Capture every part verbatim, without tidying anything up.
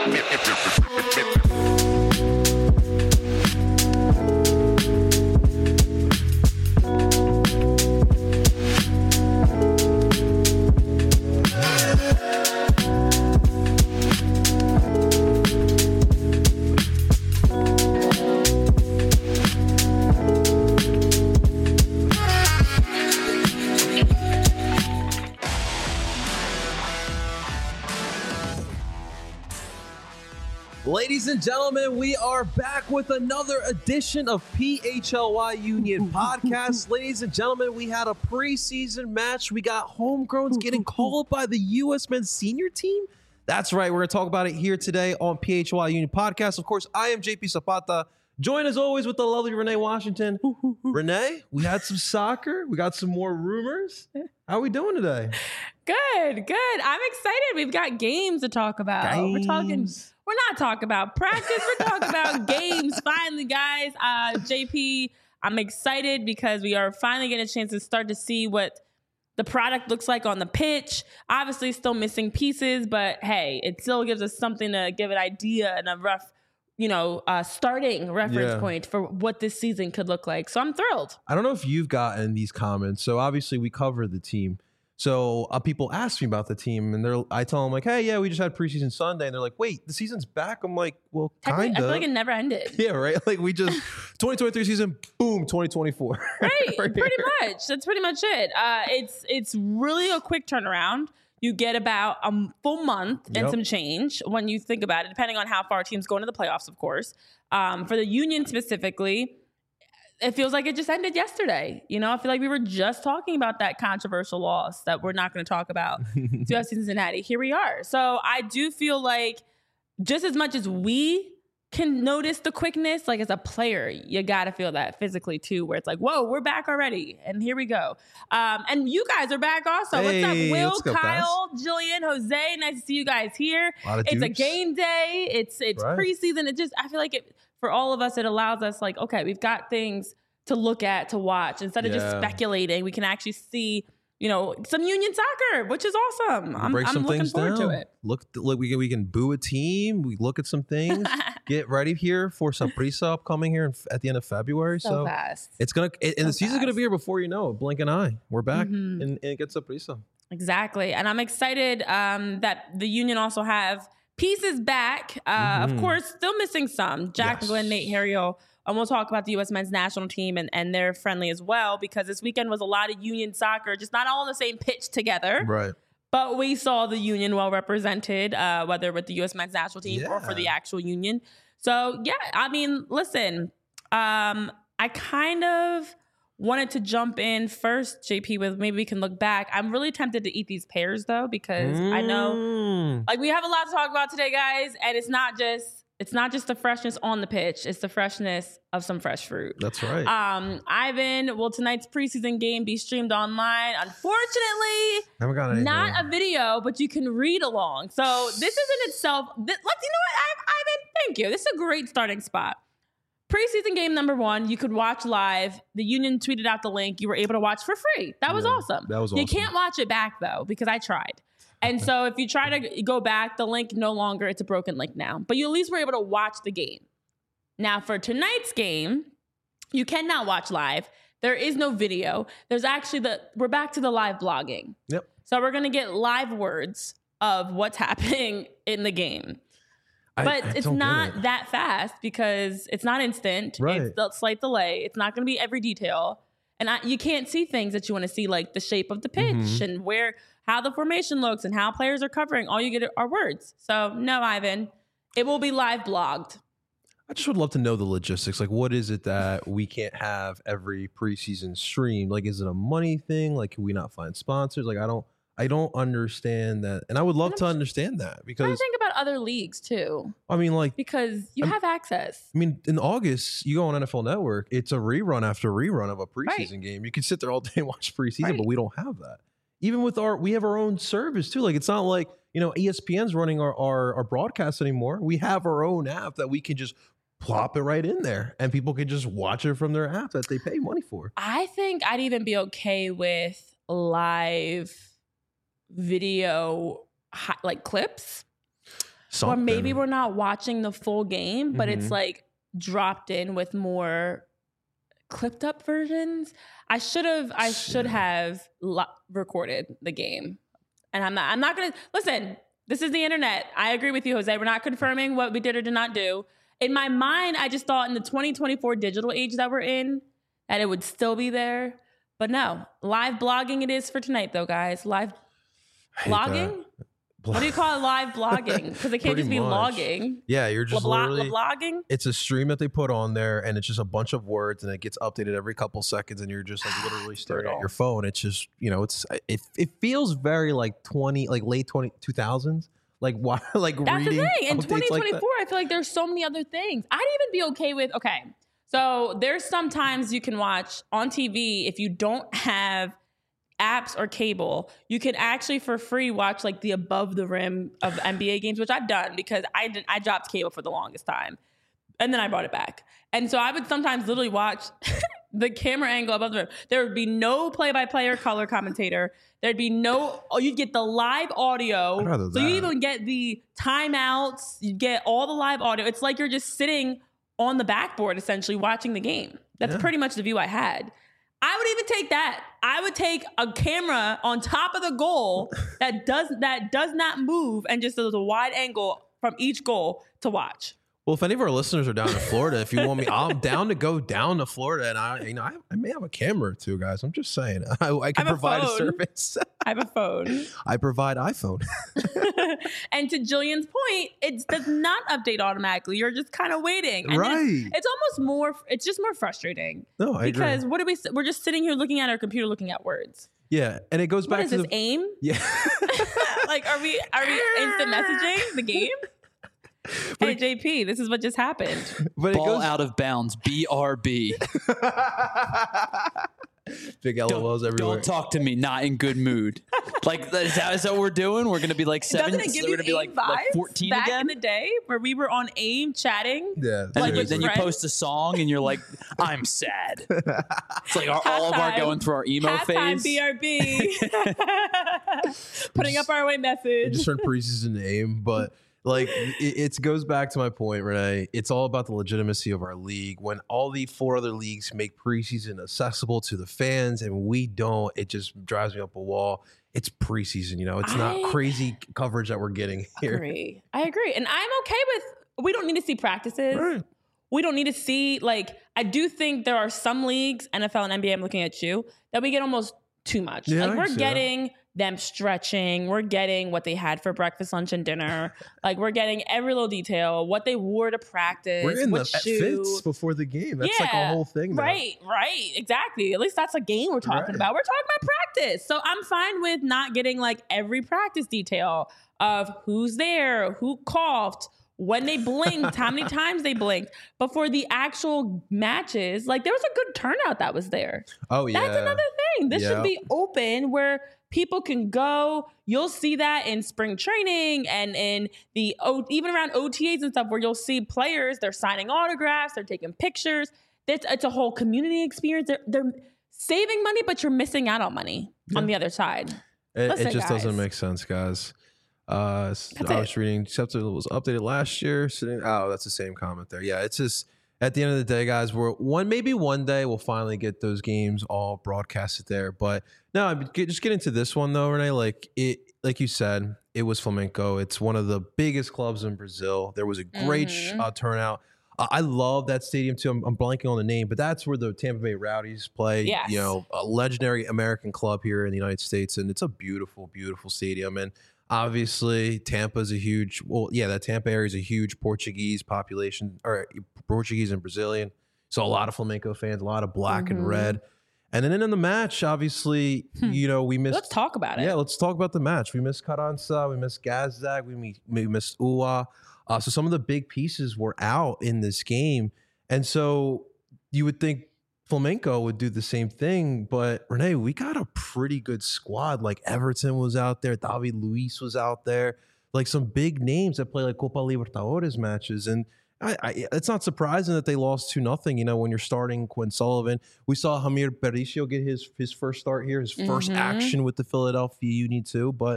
Ladies and gentlemen, we are back with another edition of P H L Y Union Podcast. Ladies and gentlemen, we had a preseason match. We got homegrowns getting called by the U S men's senior team. That's right. We're going to talk about it here today on P H L Y Union Podcast. Of course, I am J P Zapata. Join as always with the lovely Renee Washington. Renee, we had some soccer. We got some more rumors. How are we doing today? Good, good. I'm excited. We've got games to talk about. Games. We're talking... We're not talking about practice. We're talking about games. Finally, guys. Uh, J P, I'm excited because we are finally getting a chance to start to see what the product looks like on the pitch. Obviously, still missing pieces, but hey, it still gives us something to give an idea and a rough, you know, uh, starting reference Yeah. point for what this season could look like. So I'm thrilled. I don't know if you've gotten these comments. So obviously we cover the team. So uh, people ask me about the team, and they're I tell them like, "Hey, yeah, we just had preseason Sunday," and they're like, "Wait, the season's back?" I'm like, "Well, Technically, kind I of." feel like it never ended. Yeah, right. Like we just twenty twenty-three season, boom, twenty twenty-four. Right, Right pretty here. much. That's pretty much it. Uh, it's it's really a quick turnaround. You get about a m- full month and Yep. some change when you think about it, depending on how far teams go into the playoffs, of course. Um, for the Union specifically, it feels like it just ended yesterday. You know, I feel like we were just talking about that controversial loss that we're not going to talk about to us in Cincinnati. Here we are. So I do feel like just as much as we can notice the quickness, like as a player, you got to feel that physically too, where it's like, whoa, we're back already. And here we go. Um, and you guys are back also. Hey, what's up, Will, let's go, Kyle, Jillian, Jose? Nice to see you guys here. A lot of It's a dukes. game day. It's it's Right. preseason. It just, I feel like it, for all of us, it allows us like, okay, we've got things to look at, to watch. Instead of just Yeah. speculating, we can actually see, you know, some Union soccer, which is awesome. I'm, Break I'm some looking things forward down. to it. Look, look, we can we can boo a team. We look at some things. Get ready here for Saprissa upcoming here in, at the end of February. So, So, fast. it's gonna it, and So the season's gonna fast. be here before you know it. Blink an eye. We're back Mhm. and, and get Saprissa. Exactly. And I'm excited um, that the Union also have pieces back. Uh, Mhm. Of course, still missing some. Jack Yes. McGlynn, Nate Harriel. And we'll talk about the U S men's national team and, and they're friendly as well, because this weekend was a lot of Union soccer, just not all on the same pitch together. Right. But we saw the Union well represented, uh, whether with the U S men's national team or for the Yeah. actual Union. So, yeah, I mean, listen, um, I kind of wanted to jump in first, J P, with maybe we can look back. I'm really tempted to eat these pears, though, because I know, Mm. like, we have a lot to talk about today, guys, and it's not just it's not just the freshness on the pitch; it's the freshness of some fresh fruit. That's right. Um, Ivan, will tonight's preseason game be streamed online? Unfortunately, Haven't got anything. not a video, but you can read along. So this is in itself. Th- let's, you know what, I, Ivan, thank you. This is a great starting spot. Preseason game number one, you could watch live. The Union tweeted out the link. You were able to watch for free. That was Yeah, awesome. that was You awesome. can't watch it back though, because I tried. And so if you try to go back, the link no longer, it's a broken link now. But you at least were able to watch the game. Now for tonight's game, you cannot watch live. There is no video. There's actually the, we're back to the live blogging. Yep. So we're going to get live words of what's happening in the game. I- But I it's don't get not it. that fast because it's not instant. Right. It's a slight delay. It's not going to be every detail. And I, you can't see things that you want to see, like the shape of the pitch Mhm. and where, how the formation looks and how players are covering. All you get are words. So no, Ivan, it will be live blogged. I just would love to know the logistics. Like, what is it that we can't have every preseason stream? Like, is it a money thing? Like, can we not find sponsors? Like, I don't, I don't understand that, and I would love And to I'm understand that I because think about other leagues too, I mean, like, because you I'm- have access. I mean, in August, you go on N F L Network, it's a rerun after rerun of a preseason Right. game. You can sit there all day and watch preseason, Right. but we don't have that. Even with our, we have our own service too. Like, it's not like, you know, E S P N's running our, our, our broadcast anymore. We have our own app that we can just plop it right in there and people can just watch it from their app that they pay money for. I think I'd even be okay with live video hi- like clips. Something. Or maybe we're not watching the full game, but mm-hmm. it's like dropped in with more clipped up versions. I should have I should have lo- recorded the game. And I'm not I'm not going to listen. This is the internet. I agree with you, Jose. We're not confirming what we did or did not do. In my mind, I just thought in the twenty twenty-four digital age that we're in that it would still be there. But no, live blogging it is for tonight though, guys. Live blogging? What do you call it? Live blogging? Because it can't just be much. logging. Yeah, you're just La- literally blogging. It's a stream that they put on there, and it's just a bunch of words, and it gets updated every couple seconds, and you're just like literally staring at your phone. It's just, you know, it's it it feels very like twenty, like late twenty two thousands. Like why? Like that's reading the thing. In twenty twenty-four, like I feel like there's so many other things. I'd even be okay with. Okay, so there's sometimes you can watch on T V if you don't have apps or cable, you can actually for free watch like the above the rim of N B A games, which I've done because I did, I dropped cable for the longest time and then I brought it back. And so I would sometimes literally watch the camera angle above the rim. There would be no play-by-play or color commentator. There'd be no, oh, you'd get the live audio. So you even get the timeouts, you get all the live audio. It's like you're just sitting on the backboard essentially watching the game. That's yeah. pretty much the view I had. I would even take that. I would take a camera on top of the goal that does that does not move and just does a wide angle from each goal to watch. Well, if any of our listeners are down in Florida, if you want me, I'm down to go down to Florida, and I, you know, I, I may have a camera or two, guys. I'm just saying, I, I can I provide a, a service. I have a phone. I provide iPhone. And to Jillian's point, it does not update automatically. You're just kind of waiting, and right? It's, it's almost more. It's just more frustrating. No, I because agree. what are we? We're just sitting here looking at our computer, looking at words. Yeah, and it goes what back is to this the AIM. Yeah, like are we? Are we instant messaging the game? But hey, it, J P, this is what just happened. But Ball it goes, out of bounds. B R B. Big L O Ls everywhere. Don't talk to me. Not in good mood. Like, is that, is that what we're doing? We're going to be like seven. Doesn't it give we're you going to be like, like fourteen back again? in the day where we were on AIM chatting? Yeah. And like then, then you post a song and you're like, I'm sad. It's like our, all of our going through our emo phase. B R B. Putting up our away message. Just turned preseason to AIM, but. Like, it, it goes back to my point, Renee. It's all about the legitimacy of our league. When all the four other leagues make preseason accessible to the fans and we don't, it just drives me up a wall. It's preseason, you know. It's I not crazy coverage that we're getting here. Agree. I agree. And I'm okay with, we don't need to see practices. Right. We don't need to see, like, I do think there are some leagues, N F L and N B A, I'm looking at you, that we get almost too much. Yeah, like, we're getting... That. them stretching, we're getting what they had for breakfast, lunch, and dinner. Like, we're getting every little detail, what they wore to practice. We're in what the shoe. fits before the game. That's yeah, like a whole thing now. Right, right, exactly. At least that's a game we're talking right. about. We're talking about practice. So I'm fine with not getting like every practice detail of who's there, who coughed, when they blinked, how many times they blinked. But for the actual matches, like there was a good turnout that was there. Oh, yeah. That's another thing. This yep. should be open where people can go. You'll see that in spring training and in the, o- even around O T As and stuff where you'll see players, they're signing autographs, they're taking pictures. It's, it's a whole community experience. They're, they're saving money, but you're missing out on money yeah. on the other side. It, Listen, it just guys. doesn't make sense, guys. Uh, That's I it. was reading, except it was updated last year. Sitting, oh, that's the same comment there. Yeah, it's just at the end of the day, guys. We're one maybe one day we'll finally get those games all broadcasted there. But no, just get into this one though, Renee. Like it, like you said, it was Flamengo. It's one of the biggest clubs in Brazil. There was a great mm-hmm. uh, turnout. Uh, I love that stadium too. I'm, I'm blanking on the name, but that's where the Tampa Bay Rowdies play. Yes. You know, a legendary American club here in the United States, and it's a beautiful, beautiful stadium. And obviously, Tampa is a huge. Well, yeah, that Tampa area is a huge Portuguese population, or Portuguese and Brazilian. So a lot of flamenco fans, a lot of black mm-hmm. and red. And then in the match, obviously, hmm. you know, we missed. Let's talk about it. Yeah, let's talk about the match. We missed Carranza, we missed Gazdag, we we missed Ua. Uh, so some of the big pieces were out in this game, and so you would think Flamengo would do the same thing, but Renee, we got a pretty good squad. Like Everton was out there, David Luiz was out there, like some big names that play like Copa Libertadores matches. And I, I, it's not surprising that they lost two nothing. You know, when you're starting Quinn Sullivan, we saw Hamir Patricio get his his first start here, his first mm-hmm. action with the Philadelphia Union too. But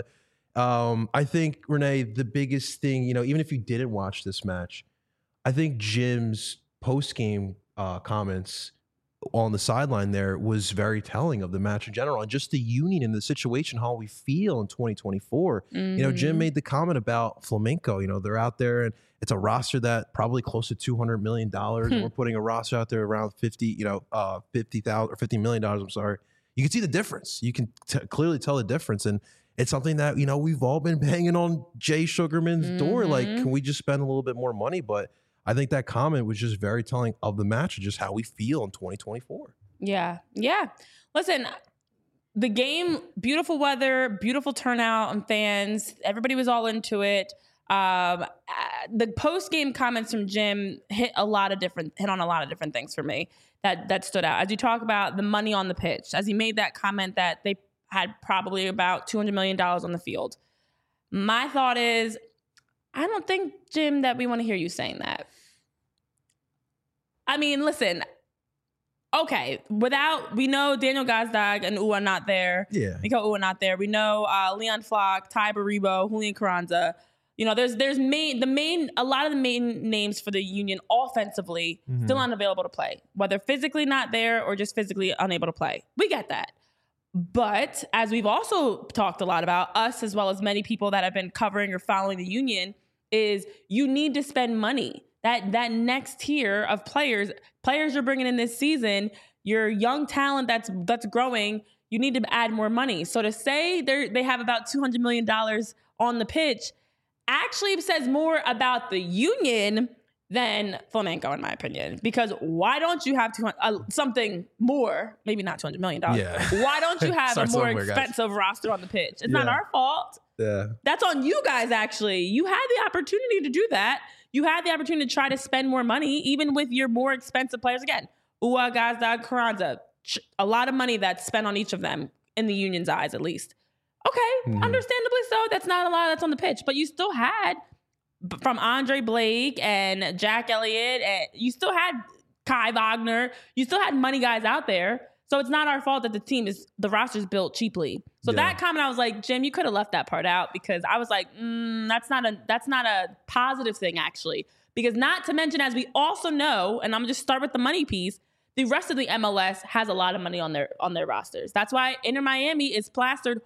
Um, I think, Renee, the biggest thing, you know, even if you didn't watch this match, I think Jim's post-game uh, comments on the sideline there was very telling of the match in general and just the union and the situation, how we feel in twenty twenty-four. Mm-hmm. You know, Jim made the comment about Flamenco. You know, they're out there and it's a roster that probably close to two hundred million dollars. And we're putting a roster out there around fifty, you know, uh, fifty thousand or fifty million dollars. I'm sorry. You can see the difference. You can t- clearly tell the difference. And it's something that, you know, we've all been banging on Jay Sugarman's mm-hmm. door. Like, can we just spend a little bit more money? But I think that comment was just very telling of the match and just how we feel in twenty twenty-four. Yeah. Yeah. Listen, the game, beautiful weather, beautiful turnout and fans. Everybody was all into it. Um, the post-game comments from Jim hit a lot of different, hit on a lot of different things for me that, that stood out. As you talk about the money on the pitch, as he made that comment that they had probably about two hundred million dollars on the field. My thought is, I don't think, Jim, that we want to hear you saying that. I mean, listen, okay, without, we know Daniel Gazdag and Ua not there. Yeah. Nico Ua not there. We know uh, Leon Flock, Ty Baribo, Julian Carranza. You know, there's there's main, the main, a lot of the main names for the Union offensively mm-hmm. still unavailable to play, whether physically not there or just physically unable to play. We get that. But as we've also talked a lot about, us as well as many people that have been covering or following the Union, is you need to spend money. That that next tier of players, players you're bringing in this season, your young talent that's that's growing, you need to add more money. So to say they they have about two hundred million dollars on the pitch actually says more about the Union than Flamenco, in my opinion. Because why don't you have two hundred, uh, something more, maybe not two hundred million dollars. Yeah. Why don't you have a more expensive guys. roster on the pitch? It's yeah. not our fault. Yeah. That's on you guys, actually. You had the opportunity to do that. You had the opportunity to try to spend more money, even with your more expensive players. Again, Ua, Gazdag, Carranza, a lot of money that's spent on each of them, in the Union's eyes, at least. Okay, mm-hmm. understandably so. That's not a lot that's on the pitch. But you still had, from Andre Blake and Jack Elliott, and you still had Kai Wagner. You still had money guys out there. So it's not our fault that the team is, the roster's built cheaply. So yeah. that comment, I was like, Jim, you could have left that part out, because I was like, mm, that's not a that's not a positive thing, actually. Because not to mention, as we also know, and I'm gonna just start with the money piece, the rest of the M L S has a lot of money on their on their rosters. That's why Inter Miami is plastered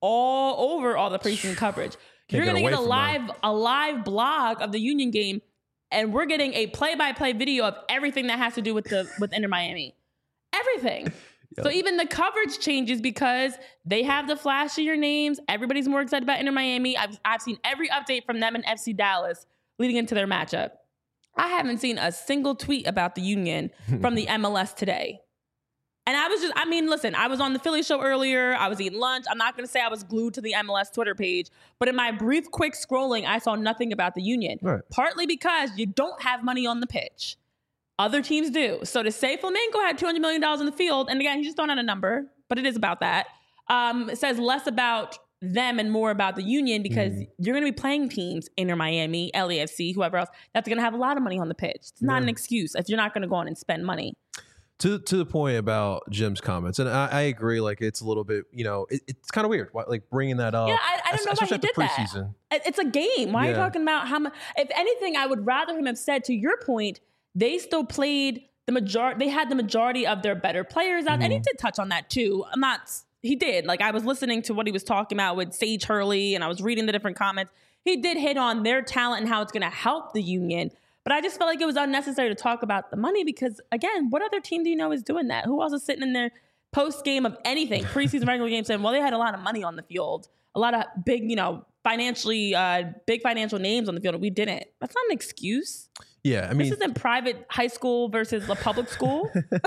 all over all the preseason coverage. You're gonna get a live that. a live blog of the Union game, and we're getting a play-by-play video of everything that has to do with the with Inter Miami. Everything. Yep. So even the coverage changes because they have the flashier names. Everybody's more excited about Inter Miami. I've, I've seen every update from them and F C Dallas leading into their matchup. I haven't seen a single tweet about the Union from the M L S today. And I was just, I mean, listen, I was on the Philly show earlier. I was eating lunch. I'm not going to say I was glued to the M L S Twitter page, but in my brief, quick scrolling, I saw nothing about the Union. Right. Partly because you don't have money on the pitch. Other teams do. So to say Flamenco had two hundred million dollars in the field, and again, he's just throwing out a number, but it is about that. Um, it says less about them and more about the Union, because mm. you're going to be playing teams, Inter Miami, L A F C, whoever else, that's going to have a lot of money on the pitch. It's not yeah. an excuse if you're not going to go on and spend money. To to the point about Jim's comments, and I, I agree, like it's a little bit, you know, it, it's kind of weird, like bringing that up. Yeah, I, I don't know why he did that. It's a game. Why yeah. are you talking about how much? If anything, I would rather him have said, to your point, they still played the majority. They had the majority of their better players out, mm-hmm. and he did touch on that too. I'm not. He did. Like, I was listening to what he was talking about with Sage Hurley, and I was reading the different comments. He did hit on their talent and how it's going to help the Union. But I just felt like it was unnecessary to talk about the money, because, again, what other team do you know is doing that? Who else is sitting in their post game of anything, preseason, regular game, saying, well, they had a lot of money on the field, a lot of big, you know, financially, uh, big financial names on the field, and we didn't. That's not an excuse. Yeah, I mean, this isn't private high school versus a public school.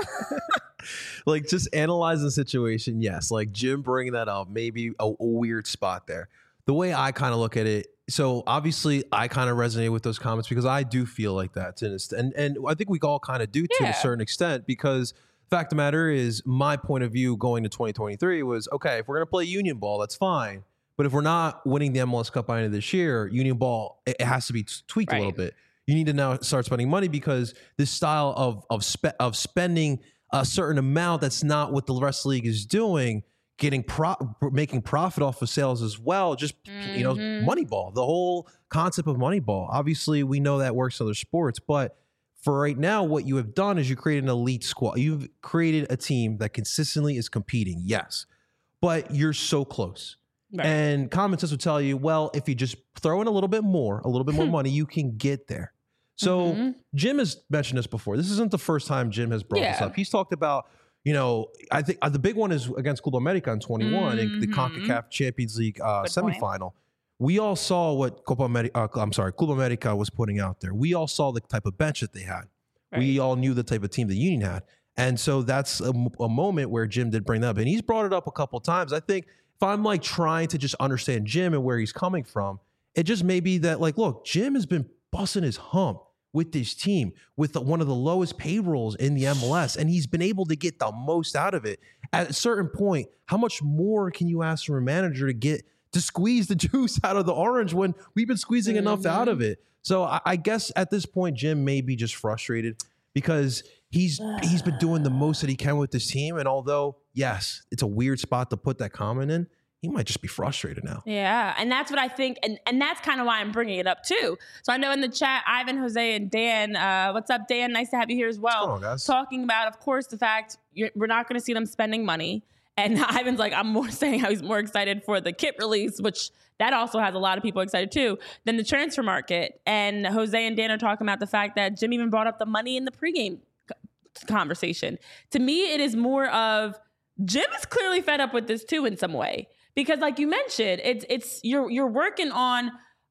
Like, just analyze the situation. Yes, like Jim bringing that up, maybe a, a weird spot there. The way I kind of look at it, so obviously I kind of resonate with those comments, because I do feel like that, to an extent. and and I think we all kind of do to yeah. a certain extent, because the fact of the matter is, my point of view going to twenty twenty-three was, okay, if we're gonna play Union ball, that's fine. But if we're not winning the M L S Cup by the end of this year, Union ball, it has to be tweaked right. a little bit. You need to now start spending money, because this style of of spe- of spending a certain amount that's not what the rest of the league is doing getting pro making profit off of sales as well. Just mm-hmm. you know, Moneyball, the whole concept of Moneyball. Obviously, we know that works in other sports, but for right now, what you have done is you created an elite squad. You've created a team that consistently is competing. Yes, but you're so close. Right. And common sense would tell you, well, if you just throw in a little bit more, a little bit more money, you can get there. So mm-hmm. Jim has mentioned this before. This isn't the first time Jim has brought yeah. this up. He's talked about, you know, I think uh, the big one is against Club America in twenty-one mm-hmm. in the CONCACAF Champions League uh, semifinal. Point. We all saw what Copa America, uh, I'm sorry, Club America was putting out there. We all saw the type of bench that they had. Right. We all knew the type of team the Union had. And so that's a, a moment where Jim did bring that up. And he's brought it up a couple of times. I think if I'm like trying to just understand Jim and where he's coming from, it just may be that like, look, Jim has been busting his hump with this team with the, one of the lowest payrolls in the M L S, and he's been able to get the most out of it. At a certain point, how much more can you ask from a manager to get to squeeze the juice out of the orange when we've been squeezing mm-hmm. enough out of it? So I, I guess at this point, Jim may be just frustrated because he's he's been doing the most that he can with this team. And although, yes, it's a weird spot to put that comment in, he might just be frustrated now. Yeah, and that's what I think, and, and that's kind of why I'm bringing it up too. So I know in the chat, Ivan, Jose, and Dan, uh, what's up, Dan? Nice to have you here as well. What's going on, guys? Talking about, of course, the fact you're, we're not going to see them spending money. And Ivan's like, I'm more saying how he's more excited for the kit release, which that also has a lot of people excited too, than the transfer market. And Jose and Dan are talking about the fact that Jim even brought up the money in the pregame conversation. To me, it is more of Jim is clearly fed up with this too in some way. Because like you mentioned, it's it's you're you're working on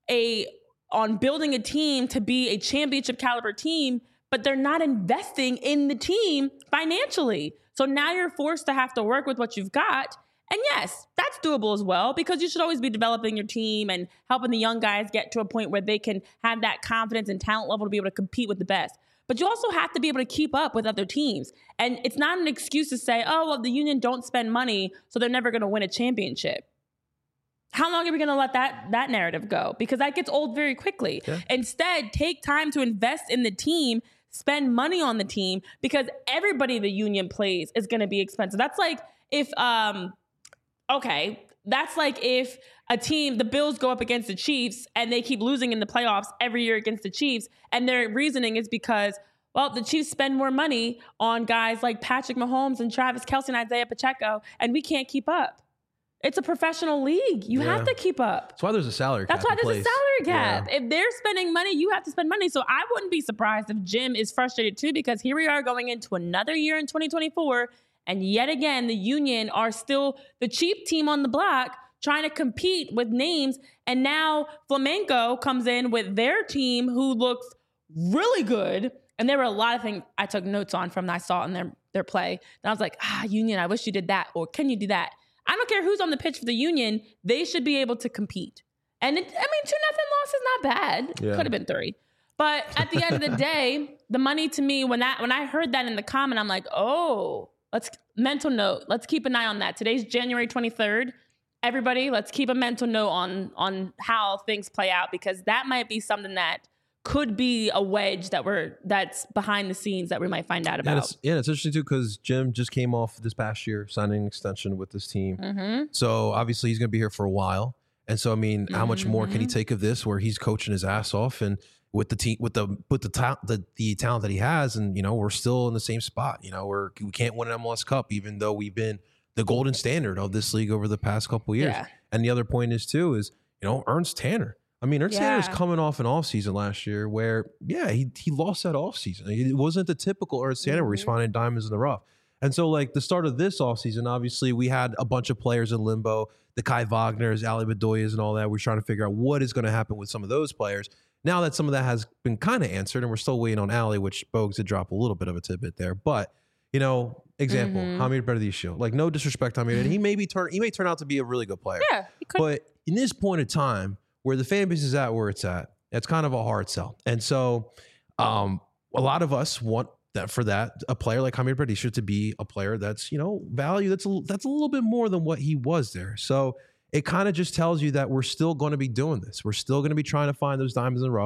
a on building a team to be a championship caliber team, but they're not investing in the team financially. So now you're forced to have to work with what you've got. And yes, that's doable as well, because you should always be developing your team and helping the young guys get to a point where they can have that confidence and talent level to be able to compete with the best. But you also have to be able to keep up with other teams. And it's not an excuse to say, oh, well, the Union don't spend money, so they're never going to win a championship. How long are we going to let that that narrative go? Because that gets old very quickly. Yeah. Instead, take time to invest in the team, spend money on the team, because everybody the Union plays is going to be expensive. That's like if, um, okay, that's like if a team, the Bills go up against the Chiefs and they keep losing in the playoffs every year against the Chiefs. And their reasoning is because, well, the Chiefs spend more money on guys like Patrick Mahomes and Travis Kelce and Isaiah Pacheco, and we can't keep up. It's a professional league. You yeah. have to keep up. That's why there's a salary cap. That's why there's place. a salary cap. Yeah. If they're spending money, you have to spend money. So I wouldn't be surprised if Jim is frustrated too, because here we are going into another year in twenty twenty-four. And yet again, the Union are still the cheap team on the block trying to compete with names. And now Flamenco comes in with their team who looks really good. And there were a lot of things I took notes on from that I saw in their, their play. And I was like, ah, Union, I wish you did that. Or can you do that? I don't care who's on the pitch for the Union. They should be able to compete. And it, I mean, two nothing loss is not bad. Yeah. Could have been three. But at the end of the day, the money to me, when that when I heard that in the comment, I'm like, oh, let's mental note. Let's keep an eye on that. Today's January twenty-third. Everybody, let's keep a mental note on, on how things play out, because that might be something that could be a wedge that we're that's behind the scenes that we might find out about. And it's, yeah, it's interesting too, because Jim just came off this past year signing an extension with this team. Mm-hmm. So obviously he's going to be here for a while. And so I mean, how much mm-hmm. more can he take of this, where he's coaching his ass off and with the team, with the with the ta- the the talent that he has, and you know we're still in the same spot. You know we're we can't win an M L S Cup, even though we've been the golden standard of this league over the past couple of years. Yeah. And the other point is too is you know Ernst Tanner. I mean, Ernst yeah. Tanner's coming off an offseason last year where, yeah, he he lost that offseason. It wasn't the typical Ernst Tanner mm-hmm. where he's finding diamonds in the rough. And so, like, the start of this offseason, obviously, we had a bunch of players in limbo, the Kai Wagners, Ali Bedoyas, and all that. We're trying to figure out what is going to happen with some of those players. Now that some of that has been kind of answered, and we're still waiting on Ali, which Bogues did drop a little bit of a tidbit there. But, you know, example, mm-hmm. Hamid Berdisio. Like, no disrespect to Hamid. And he may, be turn, he may turn out to be a really good player. Yeah, he could. But in this point in time, where the fan base is at where it's at, it's kind of a hard sell. And so um, a lot of us want that for that, a player like Hamid Berdisio to be a player that's, you know, value that's a, that's a little bit more than what he was there. So it kind of just tells you that we're still going to be doing this. We're still going to be trying to find those diamonds in the rough.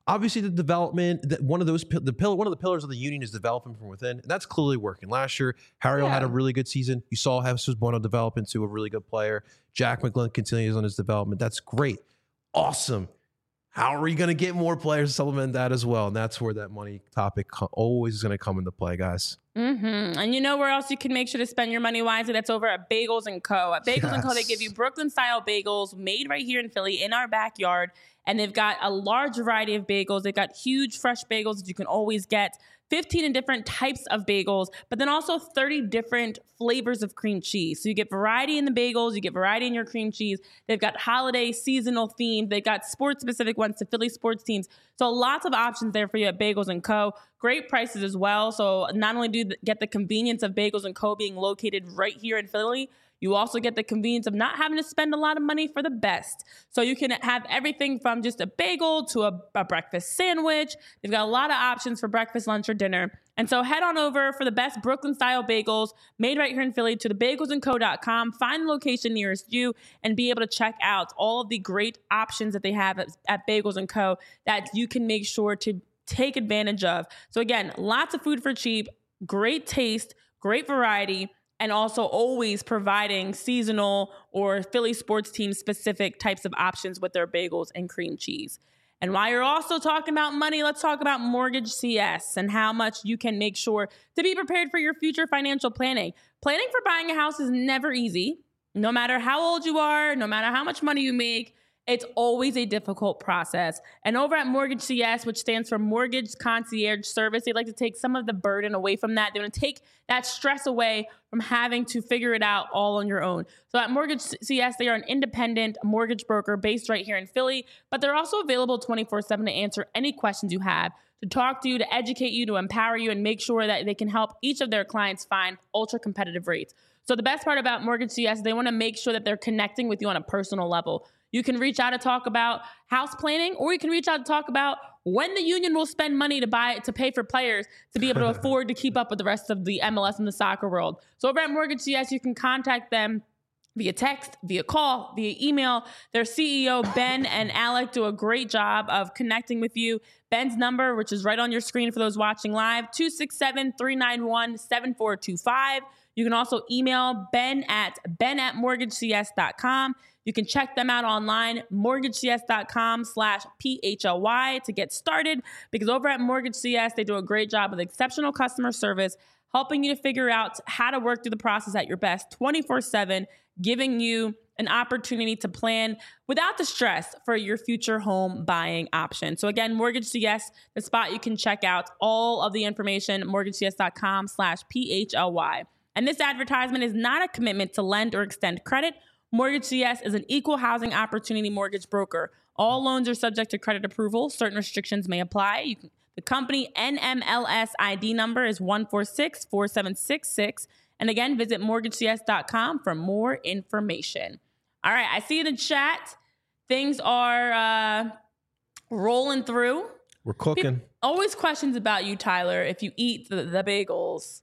obviously the development, that one of those the pillar one of the pillars of the union is developing from within, and that's clearly working. Last year, Harriel Yeah. had a really good season. You saw Jesus Bueno develop into a really good player. Jack McGlynn continues on his development. That's great, awesome. How are we going to get more players to supplement that as well? And that's where that money topic co- always is going to come into play, guys. Mm-hmm. And you know where else you can make sure to spend your money wisely? That's over at Bagels and Co. At Bagels and Co, they Yes. give you Brooklyn-style bagels made right here in Philly in our backyard. And they've got a large variety of bagels. They've got huge fresh bagels that you can always get. fifteen different types of bagels, but then also thirty different flavors of cream cheese. So you get variety in the bagels, you get variety in your cream cheese. They've got holiday, seasonal themed. They've got sports-specific ones to Philly sports teams. So lots of options there for you at Bagels and Co. Great prices as well. So not only do you get the convenience of Bagels and Co. being located right here in Philly, you also get the convenience of not having to spend a lot of money for the best. So you can have everything from just a bagel to a, a breakfast sandwich. They've got a lot of options for breakfast, lunch, or dinner. And so head on over for the best Brooklyn-style bagels made right here in Philly to the bagels and co dot com. Find the location nearest you and be able to check out all of the great options that they have at, at Bagels and Co. that you can make sure to take advantage of. So again, lots of food for cheap, great taste, great variety, and also always providing seasonal or Philly sports team specific types of options with their bagels and cream cheese. And while you're also talking about money, let's talk about Mortgage C S and how much you can make sure to be prepared for your future financial planning. Planning for buying a house is never easy. No matter how old you are, no matter how much money you make, it's always a difficult process. And over at Mortgage C S, which stands for Mortgage Concierge Service, they like to take some of the burden away from that. They want to take that stress away from having to figure it out all on your own. So at Mortgage C S, they are an independent mortgage broker based right here in Philly, but they're also available twenty-four seven to answer any questions you have, to talk to you, to educate you, to empower you, and make sure that they can help each of their clients find ultra competitive rates. So the best part about Mortgage C S, they want to make sure that they're connecting with you on a personal level. You can reach out to talk about house planning, or you can reach out to talk about when the union will spend money to buy to pay for players to be able to afford to keep up with the rest of the M L S and the soccer world. So over at Mortgage C S, you can contact them via text, via call, via email. Their C E O, Ben and Alec, do a great job of connecting with you. Ben's number, which is right on your screen for those watching live, two six seven, three nine one, seven four two five. You can also email Ben at ben at mortgage c s dot com. You can check them out online, mortgage c s dot com slash P H L Y to get started, because over at Mortgage C S, they do a great job with exceptional customer service, helping you to figure out how to work through the process at your best twenty-four seven, giving you an opportunity to plan without the stress for your future home buying option. So again, Mortgage C S, the spot you can check out all of the information, mortgage c s dot com slash P H L Y. And this advertisement is not a commitment to lend or extend credit. Mortgage C S is an equal housing opportunity mortgage broker. All loans are subject to credit approval. Certain restrictions may apply. You can, the company N M L S I D number is one four six four seven six six. And again, visit mortgage c s dot com for more information. All right, I see in the chat, things are uh, rolling through. We're cooking. People, always questions about you, Tyler, if you eat the, the bagels.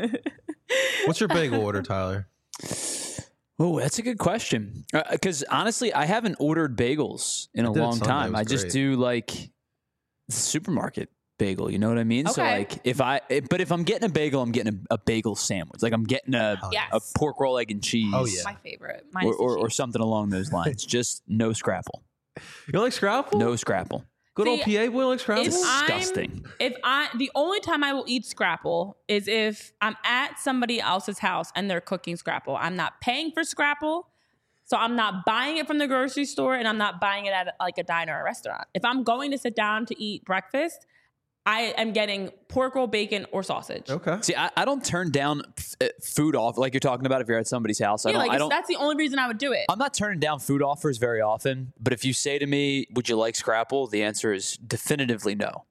What's your bagel order, Tyler? Oh, that's a good question. Because uh, honestly, I haven't ordered bagels in I a did it long Sunday. time. It was I just great. do like the supermarket bagel. You know what I mean? So Okay. like, if I, it, but if I'm getting a bagel, I'm getting a, a bagel sandwich. Like I'm getting a, Hell Yes. a pork roll, egg, and cheese. Oh, yeah. My favorite. Mine Or, is the or, or cheese. something along those lines. Just no scrapple. You don't like Scrapple? No scrapple. Good old See, P A boy like Scrapple? If Disgusting. I'm, if I, the only time I will eat Scrapple is if I'm at somebody else's house and they're cooking Scrapple. I'm not paying for Scrapple, so I'm not buying it from the grocery store, and I'm not buying it at like a diner or a restaurant. If I'm going to sit down to eat breakfast, I am getting pork roll, bacon, or sausage. Okay. See, I, I don't turn down f- uh, food off like you're talking about if you're at somebody's house. I Yeah, don't. like I it's- don't. that's the only reason I would do it. I'm not turning down food offers very often, but if you say to me, "Would you like Scrapple?" the answer is definitively no.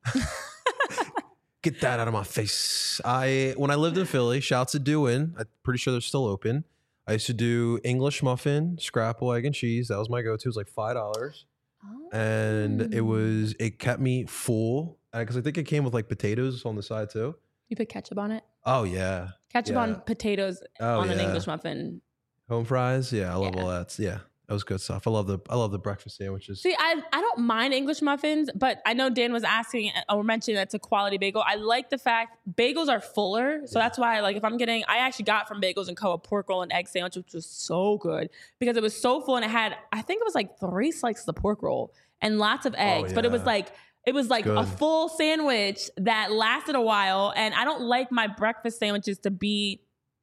Get that out of my face. I when I lived in Philly, shouts to Doin. I'm pretty sure they're still open. I used to do English muffin, Scrapple, egg and cheese. That was my go-to. It was like five dollars, and it was it kept me full because I think it came with like potatoes on the side too. You put ketchup on it. Oh yeah, Ketchup Yeah. on potatoes Oh, on an yeah. English muffin. home fries. Yeah, I love Yeah. all that. Yeah, That was good stuff. I love the I love the breakfast sandwiches. See, I, I don't mind English muffins, but I know Dan was asking or mentioning that's a quality bagel. I like the fact bagels are fuller. So yeah. that's why, like, if I'm getting, I actually got from Bagels and Co. a pork roll and egg sandwich, which was so good because it was so full and it had, I think it was like three slices of pork roll and lots of eggs, oh, yeah. but it was like, it was like good. a full sandwich that lasted a while. And I don't like my breakfast sandwiches to be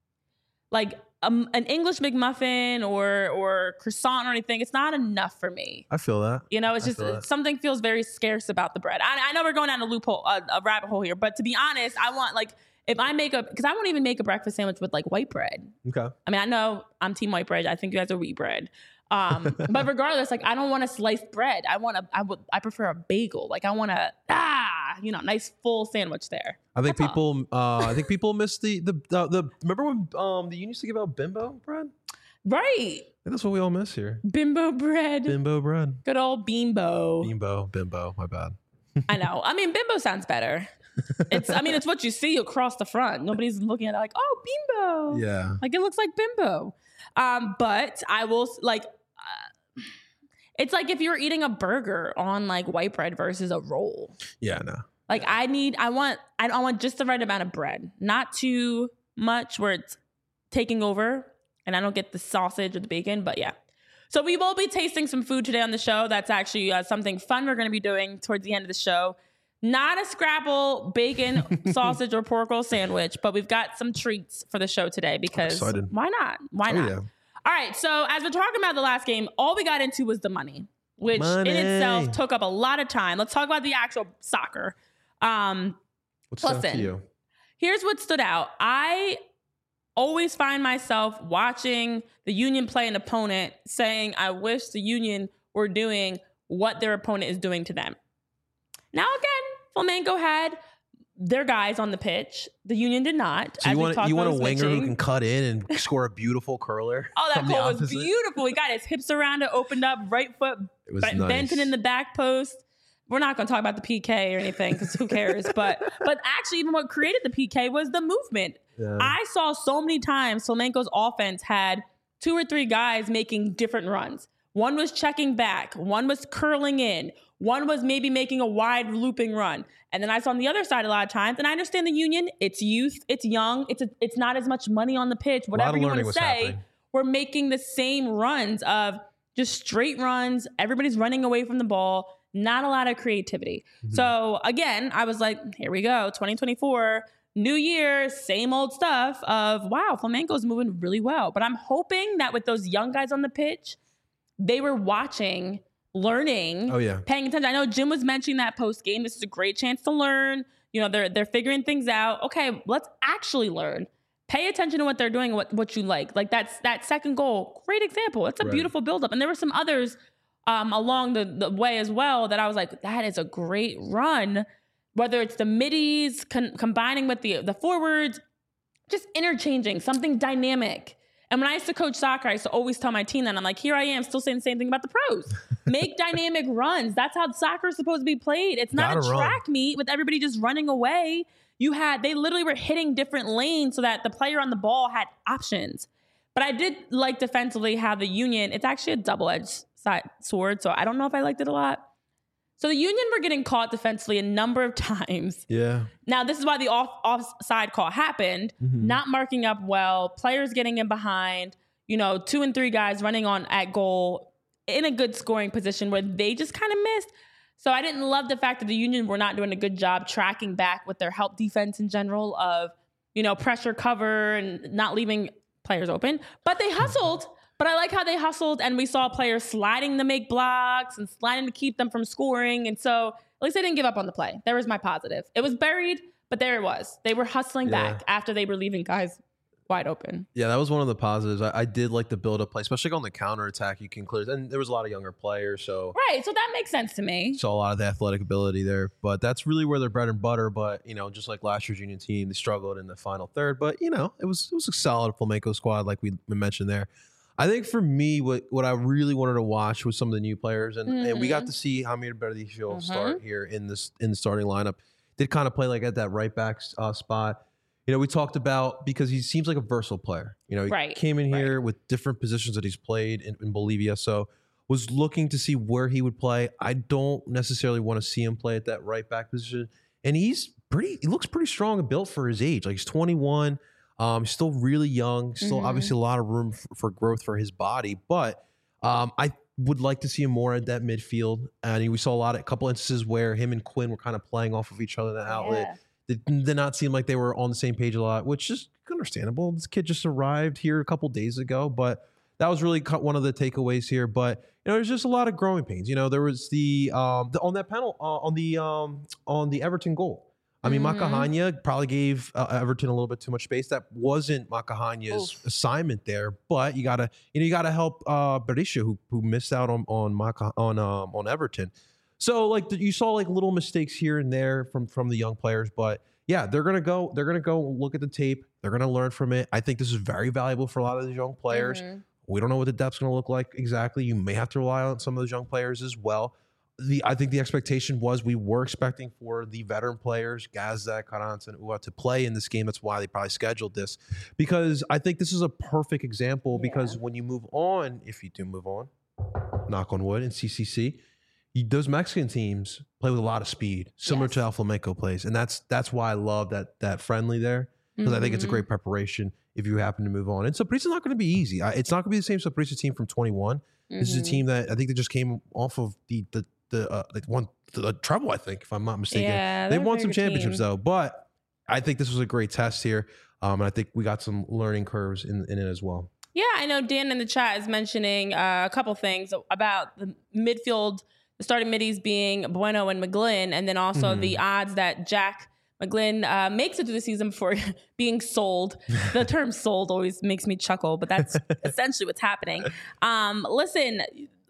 like, Um, an English McMuffin or or croissant or anything, it's not enough for me. I feel that. You know, it's I just something feels very scarce about the bread. I, I know we're going down a loophole, a, a rabbit hole here, but to be honest, I want like if I make a because I won't even make a breakfast sandwich with like white bread. Okay. I mean, I know I'm team white bread. I think you guys are wheat bread. Um, but regardless, like I don't want a sliced bread. I want a I would I prefer a bagel. Like I want a ah, you know, nice full sandwich there. I think That's people uh I think people miss the the the, the remember when um the union used to give out bimbo bread? Right. That's what we all miss here. Bimbo bread. Bimbo bread. Good old bimbo. Bimbo, bimbo, my bad. I know. I mean, bimbo sounds better. It's I mean, it's what you see across the front. Nobody's looking at it like, oh, bimbo. Yeah. Like it looks like bimbo. Um, but I will like uh, it's like if you're eating a burger on like white bread versus a roll. Yeah, no. Like I need, I want, I, I want just the right amount of bread, not too much where it's taking over and I don't get the sausage or the bacon, but yeah. So we will be tasting some food today on the show. That's actually uh, something fun we're going to be doing towards the end of the show. Not a Scrapple bacon, sausage, or pork roll sandwich, but we've got some treats for the show today because why not? Why oh, not? Yeah. All right. So as we're talking about the last game, all we got into was the money, which money. in itself took up a lot of time. Let's talk about the actual soccer. Um, What's listen, up to you? Here's what stood out. I always find myself watching the Union play an opponent saying, I wish the Union were doing what their opponent is doing to them. Now, again, Flamengo had their guys on the pitch. The Union did not. So you want, you want a winger switching. who can cut in and score a beautiful curler? Oh, that goal was beautiful. He got his hips around it, opened up, right foot, it was bent nice. in the back post. We're not going to talk about the P K or anything because who cares? but but actually, even what created the P K was the movement. Yeah. I saw so many times Flamenco's offense had two or three guys making different runs. One was checking back. One was curling in. One was maybe making a wide looping run. And then I saw on the other side a lot of times, and I understand the Union, it's youth, it's young, it's a, it's not as much money on the pitch, whatever you want to say. Happening. We're making the same runs of just straight runs. Everybody's running away from the ball. Not a lot of creativity. Mm-hmm. So again, I was like, here we go, twenty twenty-four, new year, same old stuff of, wow, Flamenco's moving really well. But I'm hoping that with those young guys on the pitch, they were watching, learning, oh, yeah. paying attention. I know Jim was mentioning that post game. This is a great chance to learn. You know, they're they're figuring things out. Okay, let's actually learn. Pay attention to what they're doing, what what you like. Like that's that second goal, great example. It's a right. beautiful buildup. And there were some others um, along the, the way as well that I was like, that is a great run. Whether it's the middies con- combining with the the forwards, just interchanging, something dynamic. And when I used to coach soccer, I used to always tell my team that. I'm like, here I am still saying the same thing about the pros. Make dynamic runs. That's how soccer is supposed to be played. It's not Gotta a track run. meet with everybody just running away. You had, they literally were hitting different lanes so that the player on the ball had options. But I did like defensively how the Union, it's actually a double-edged side, sword, so I don't know if I liked it a lot. So the Union were getting caught defensively a number of times. Yeah. Now, this is why the off offside call happened. Mm-hmm. Not marking up well, players getting in behind, you know, two and three guys running on at goal in a good scoring position where they just kind of missed. So I didn't love the fact that the Union were not doing a good job tracking back with their help defense in general of, you know, pressure cover and not leaving players open. But they hustled. But I like how they hustled and we saw players sliding to make blocks and sliding to keep them from scoring. And so at least they didn't give up on the play. There was my positive. It was buried, but there it was. They were hustling yeah. back after they were leaving guys wide open. Yeah, that was one of the positives. I, I did like the build-up play, especially on the counterattack. You can clear, and there was a lot of younger players. So right, so that makes sense to me. Saw a lot of the athletic ability there. But that's really where their bread and butter. But, you know, just like last year's Union team, they struggled in the final third. But, you know, it was, it was a solid Flamenco squad like we mentioned there. I think for me, what, what I really wanted to watch was some of the new players, and, mm-hmm. and we got to see Hamir Berdisio mm-hmm. start here in this in the starting lineup. Did kind of play like at that right back uh, spot. You know, we talked about because he seems like a versatile player. You know, he Right, came in here right. with different positions that he's played in, in Bolivia. So was looking to see where he would play. I don't necessarily want to see him play at that right back position. And he's pretty, he looks pretty strong and built for his age. Like he's twenty-one, um, still really young, still Mhm. obviously a lot of room for, for growth for his body. But um, I would like to see him more at that midfield. And we saw a lot of a couple instances where him and Quinn were kind of playing off of each other in that outlet. Yeah. It did not seem like they were on the same page a lot, which is understandable. This kid just arrived here a couple days ago, but that was really cut one of the takeaways here. But you know, there's just a lot of growing pains. You know, there was the um the, on that panel uh, on the um on the Everton goal. I mean, Mhm. Makahanya probably gave uh, Everton a little bit too much space. That wasn't Makahanya's Oof. assignment there, but you gotta you know you gotta help uh Berisha who who missed out on on Maka, on um on Everton. So like the, you saw like little mistakes here and there from from the young players, but yeah, they're gonna go. They're gonna go look at the tape. They're gonna learn from it. I think this is very valuable for a lot of these young players. Mhm. We don't know what the depth's gonna look like exactly. You may have to rely on some of those young players as well. The I think the expectation was we were expecting for the veteran players, Gazza, Carranza, and Ua, to play in this game. That's why they probably scheduled this, because I think this is a perfect example. Yeah. Because when you move on, if you do move on, knock on wood, in C C C. You, those Mexican teams play with a lot of speed, similar Yes. to how Flamenco plays, and that's that's why I love that that friendly there, because I think it's a Mhm. great preparation if you happen to move on. And Sapri's not going to be easy. I, it's not going to be the same Saprissa team from twenty-one. This is a Mhm. team that I think they just came off of the the the uh, like one the, the treble. I think, if I'm not mistaken, Yeah, they they're a won very some good championships team. though. But I think this was a great test here, um, and I think we got some learning curves in, in it as well. Yeah, I know Dan in the chat is mentioning uh, a couple things about the midfield, the starting middies being Bueno and McGlynn, and then also Mhm. the odds that Jack McGlynn uh, makes it through the season before being sold. The term sold always makes me chuckle, but that's essentially what's happening. Um, listen,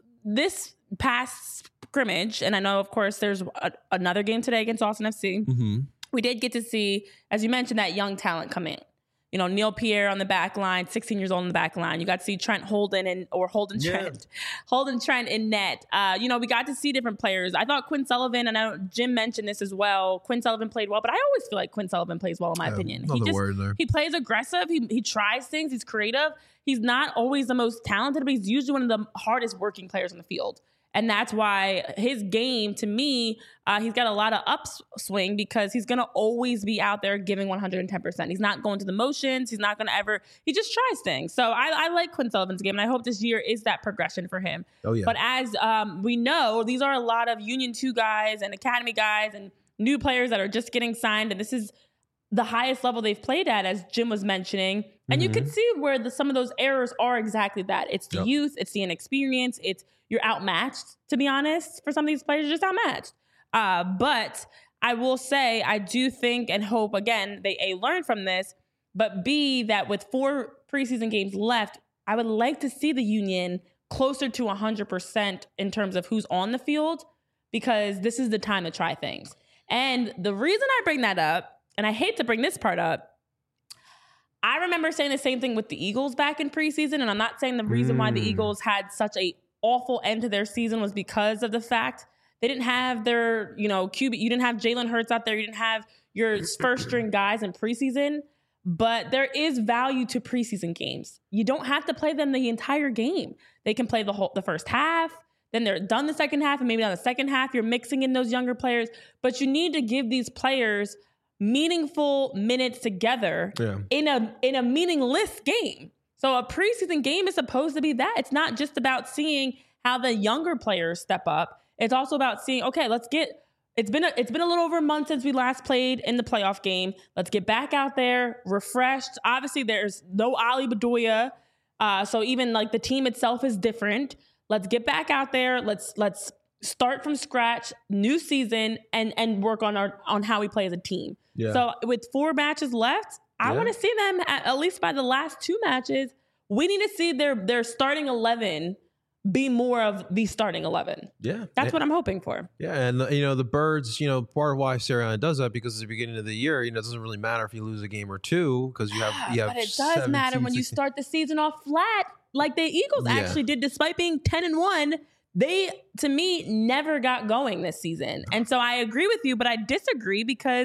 this past scrimmage, and I know, of course, there's a, another game today against Austin F C. Mm-hmm. We did get to see, as you mentioned, that young talent come in. You know, Neil Pierre on the back line, sixteen years old on the back line. You got to see Trent Holden and or Holden Yeah. Trent, Holden Trent in net. Uh, you know, we got to see different players. I thought Quinn Sullivan, and I know Jim mentioned this as well. Quinn Sullivan played well, but I always feel like Quinn Sullivan plays well, in my opinion. He just word there. he plays aggressive. He he tries things. He's creative. He's not always the most talented, but he's usually one of the hardest working players on the field. And that's why his game, to me, uh, he's got a lot of upswing because he's going to always be out there giving one hundred ten percent. He's not going to the motions. He's not going to ever, he just tries things. So I, I like Quinn Sullivan's game, and I hope this year is that progression for him. Oh yeah. But as um, we know, these are a lot of Union two guys and Academy guys and new players that are just getting signed. And this is the highest level they've played at, as Jim was mentioning. And you Mhm. can see where the, some of those errors are exactly that. It's the Yep. youth, it's the inexperience, it's you're outmatched, to be honest. For some of these players, you're just outmatched. Uh, but I will say, I do think and hope, again, they A, learn from this, but B, that with four preseason games left, I would like to see the Union closer to one hundred percent in terms of who's on the field, because this is the time to try things. And the reason I bring that up, and I hate to bring this part up, I remember saying the same thing with the Eagles back in preseason, and I'm not saying the reason why the Mm. Eagles had such a awful end to their season was because of the fact they didn't have their, you know, Q B. You didn't have Jalen Hurts out there. You didn't have your first string guys in preseason. But there is value to preseason games. You don't have to play them the entire game. They can play the whole the first half. Then they're done the second half, and maybe on the second half you're mixing in those younger players. But you need to give these players meaningful minutes together Yeah. in a in a meaningless game. So a preseason game is supposed to be that. It's not just about seeing how the younger players step up. It's also about seeing, okay, let's get it's been a, it's been a little over a month since we last played in the playoff game. Let's get back out there refreshed. Obviously, there's no Ali Bedoya, uh, so even like the team itself is different. Let's get back out there. Let's let's start from scratch, new season, and and work on our on how we play as a team. Yeah. So with four matches left, I Yeah. want to see them at, at least by the last two matches. We need to see their their starting eleven be more of the starting eleven. yeah. That's yeah. what I'm hoping for. Yeah, and the, you know the Birds. You know, part of why Sirianni does that because at the beginning of the year, you know, it doesn't really matter if you lose a game or two because you have you have. But it does matter when you seventeen, start the season off flat, like the Eagles Yeah. actually did, despite being ten and one. They, to me, never got going this season. And so I agree with you, but I disagree because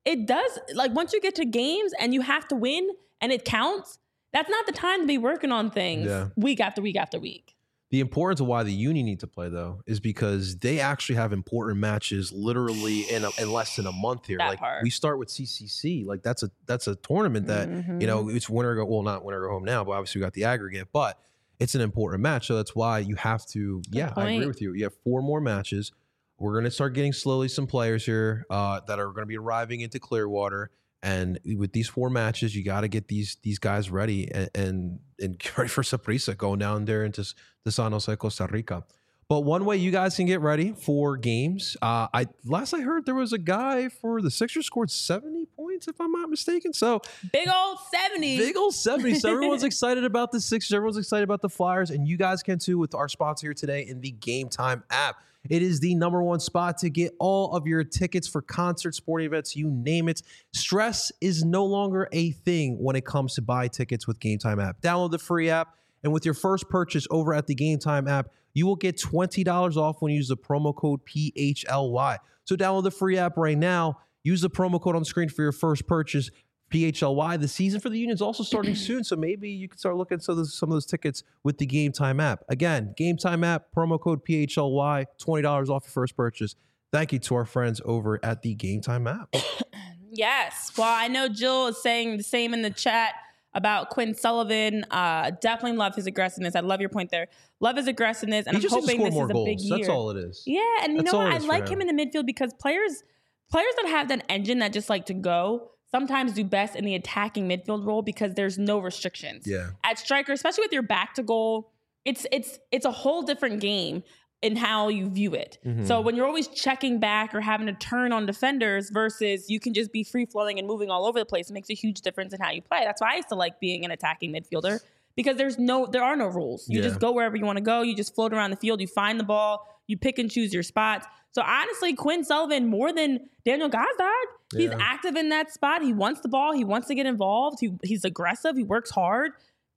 it does, like once you get to games and you have to win and it counts, that's not the time to be working on things Yeah. week after week after week. The importance of why the Union need to play, though, is because they actually have important matches literally in, a, in less than a month here. That like part. we start with C C C, like that's a that's a tournament that Mhm. you know it's winner go well not winner go home now, but obviously we got the aggregate, but it's an important match, so that's why you have to. yeah, I agree point. with you. You have four more matches. We're gonna start getting slowly some players here uh, that are gonna be arriving into Clearwater. And with these four matches, you got to get these these guys ready and, and and get ready for Saprissa going down there into to San Jose, Costa Rica. But one way you guys can get ready for games, uh, I last I heard there was a guy for the Sixers scored seventy points, if I'm not mistaken. So Big old seventy. big old seventy. So everyone's excited about the Sixers. Everyone's excited about the Flyers, and you guys can too with our sponsor here today in the Game Time app. It is the number one spot to get all of your tickets for concerts, sporting events, you name it. Stress is no longer a thing when it comes to buy tickets with Game Time app. Download the free app, and with your first purchase over at the Game Time app, you will get twenty dollars off when you use the promo code P H L Y. So download the free app right now. Use the promo code on screen for your first purchase. P H L Y. The season for the Union is also starting soon, so maybe you can start looking at some of those, some of those tickets with the Game Time app. Again, Game Time app, promo code P H L Y, twenty dollars off your first purchase. Thank you to our friends over at the Game Time app. Yes. Well, I know Jill is saying the same in the chat about Quinn Sullivan. Uh, definitely love his aggressiveness. I love your point there. Love his aggressiveness, and He I'm just needs to hoping score this more is a goals. big year. That's all it is. Yeah, and you That's know all what? it I is for like him him. in the midfield because players players that have that engine that just like to go sometimes do best in the attacking midfield role because there's no restrictions. Yeah. At striker, especially with your back to goal, it's it's it's a whole different game in how you view it. Mhm. So when you're always checking back or having to turn on defenders versus you can just be free flowing and moving all over the place, it makes a huge difference in how you play. That's why I used to like being an attacking midfielder because there's no there are no rules. You Yeah. just go wherever you want to go. You just float around the field. You find the ball. You pick and choose your spots. So honestly, Quinn Sullivan more than Daniel Gazdag. He's Yeah. active in that spot. He wants the ball. He wants to get involved. He, he's aggressive. He works hard.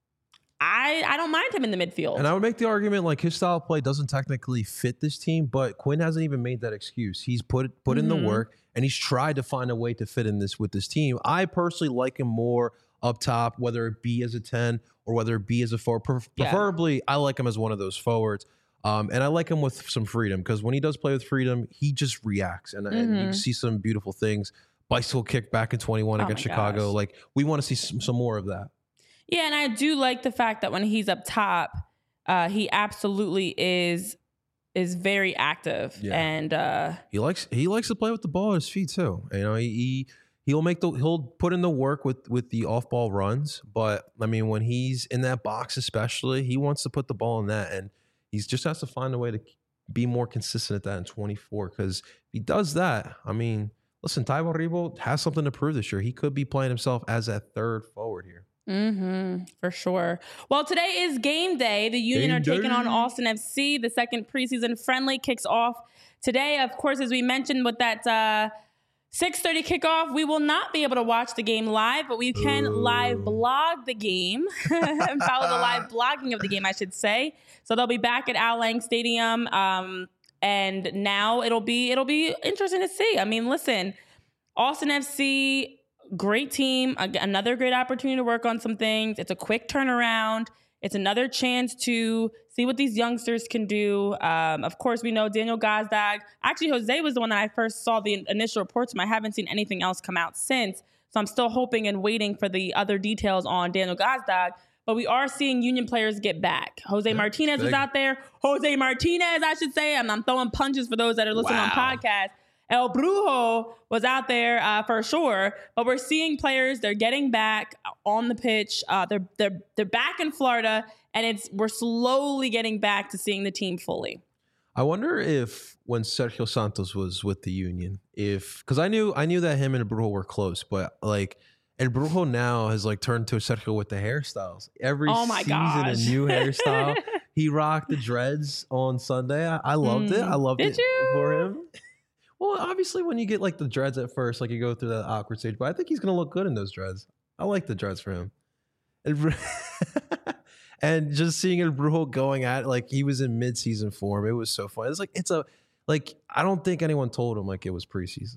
I I don't mind him in the midfield. And I would make the argument like his style of play doesn't technically fit this team, but Quinn hasn't even made that excuse. He's put put in Mhm. the work and he's tried to find a way to fit in this with this team. I personally like him more up top, whether it be as a ten or whether it be as a forward. Pre- Yeah. Preferably, I like him as one of those forwards. Um, and I like him with some freedom because when he does play with freedom, he just reacts and, and you Mhm. can see some beautiful things. Bicycle kick back in twenty-one Oh against my Chicago. gosh. Like we want to see some, some more of that. Yeah, and I do like the fact that when he's up top, uh, he absolutely is is very active. Yeah. And uh, He likes he likes to play with the ball at his feet too. You know, he, he he'll make the he'll put in the work with with the off ball runs. But I mean, when he's in that box, especially, he wants to put the ball in that, and he just has to find a way to be more consistent at that in twenty-four. Because if he does that, I mean, listen, Taiwo Rebo has something to prove this year. He could be playing himself as that third forward here. mm-hmm, for sure. Well, today is game day. The Union Game are taking day. on Austin F C. The second preseason friendly kicks off today. Of course, as we mentioned with that uh, six thirty kickoff, we will not be able to watch the game live, but we can Ooh. live blog the game and follow the live blogging of the game, I should say. So they'll be back at Al Lang Stadium. Um, and now it'll be it'll be interesting to see. I mean, listen, Austin F C, great team, a- another great opportunity to work on some things. It's a quick turnaround. It's another chance to see what these youngsters can do. Um, of course, we know Daniel Gazdag. Actually, Jose was the one that I first saw the initial reports from. I haven't seen anything else come out since. So I'm still hoping and waiting for the other details on Daniel Gazdag. But we are seeing Union players get back. Jose Martinez was big. out there. Jose Martinez, I should say. I'm, I'm throwing punches for those that are listening on Wow. podcast. El Brujo was out there uh, for sure, but we're seeing players. They're getting back on the pitch. Uh, they're they're they're back in Florida, and it's we're slowly getting back to seeing the team fully. I wonder if when Sergio Santos was with the Union, if because I knew I knew that him and Brujo were close, but like and Brujo now has like turned to Sergio with the hairstyles. Every Oh my season gosh. a new hairstyle. He rocked the dreads on Sunday. I, I loved it. I loved Did it you? for him. Well, obviously when you get like the dreads at first, like you go through that awkward stage, but I think he's gonna look good in those dreads. I like the dreads for him. And, Bru- and just seeing El Brujo going at it, like he was in mid-season form, it was so fun. It's like it's a like I don't think anyone told him like it was preseason.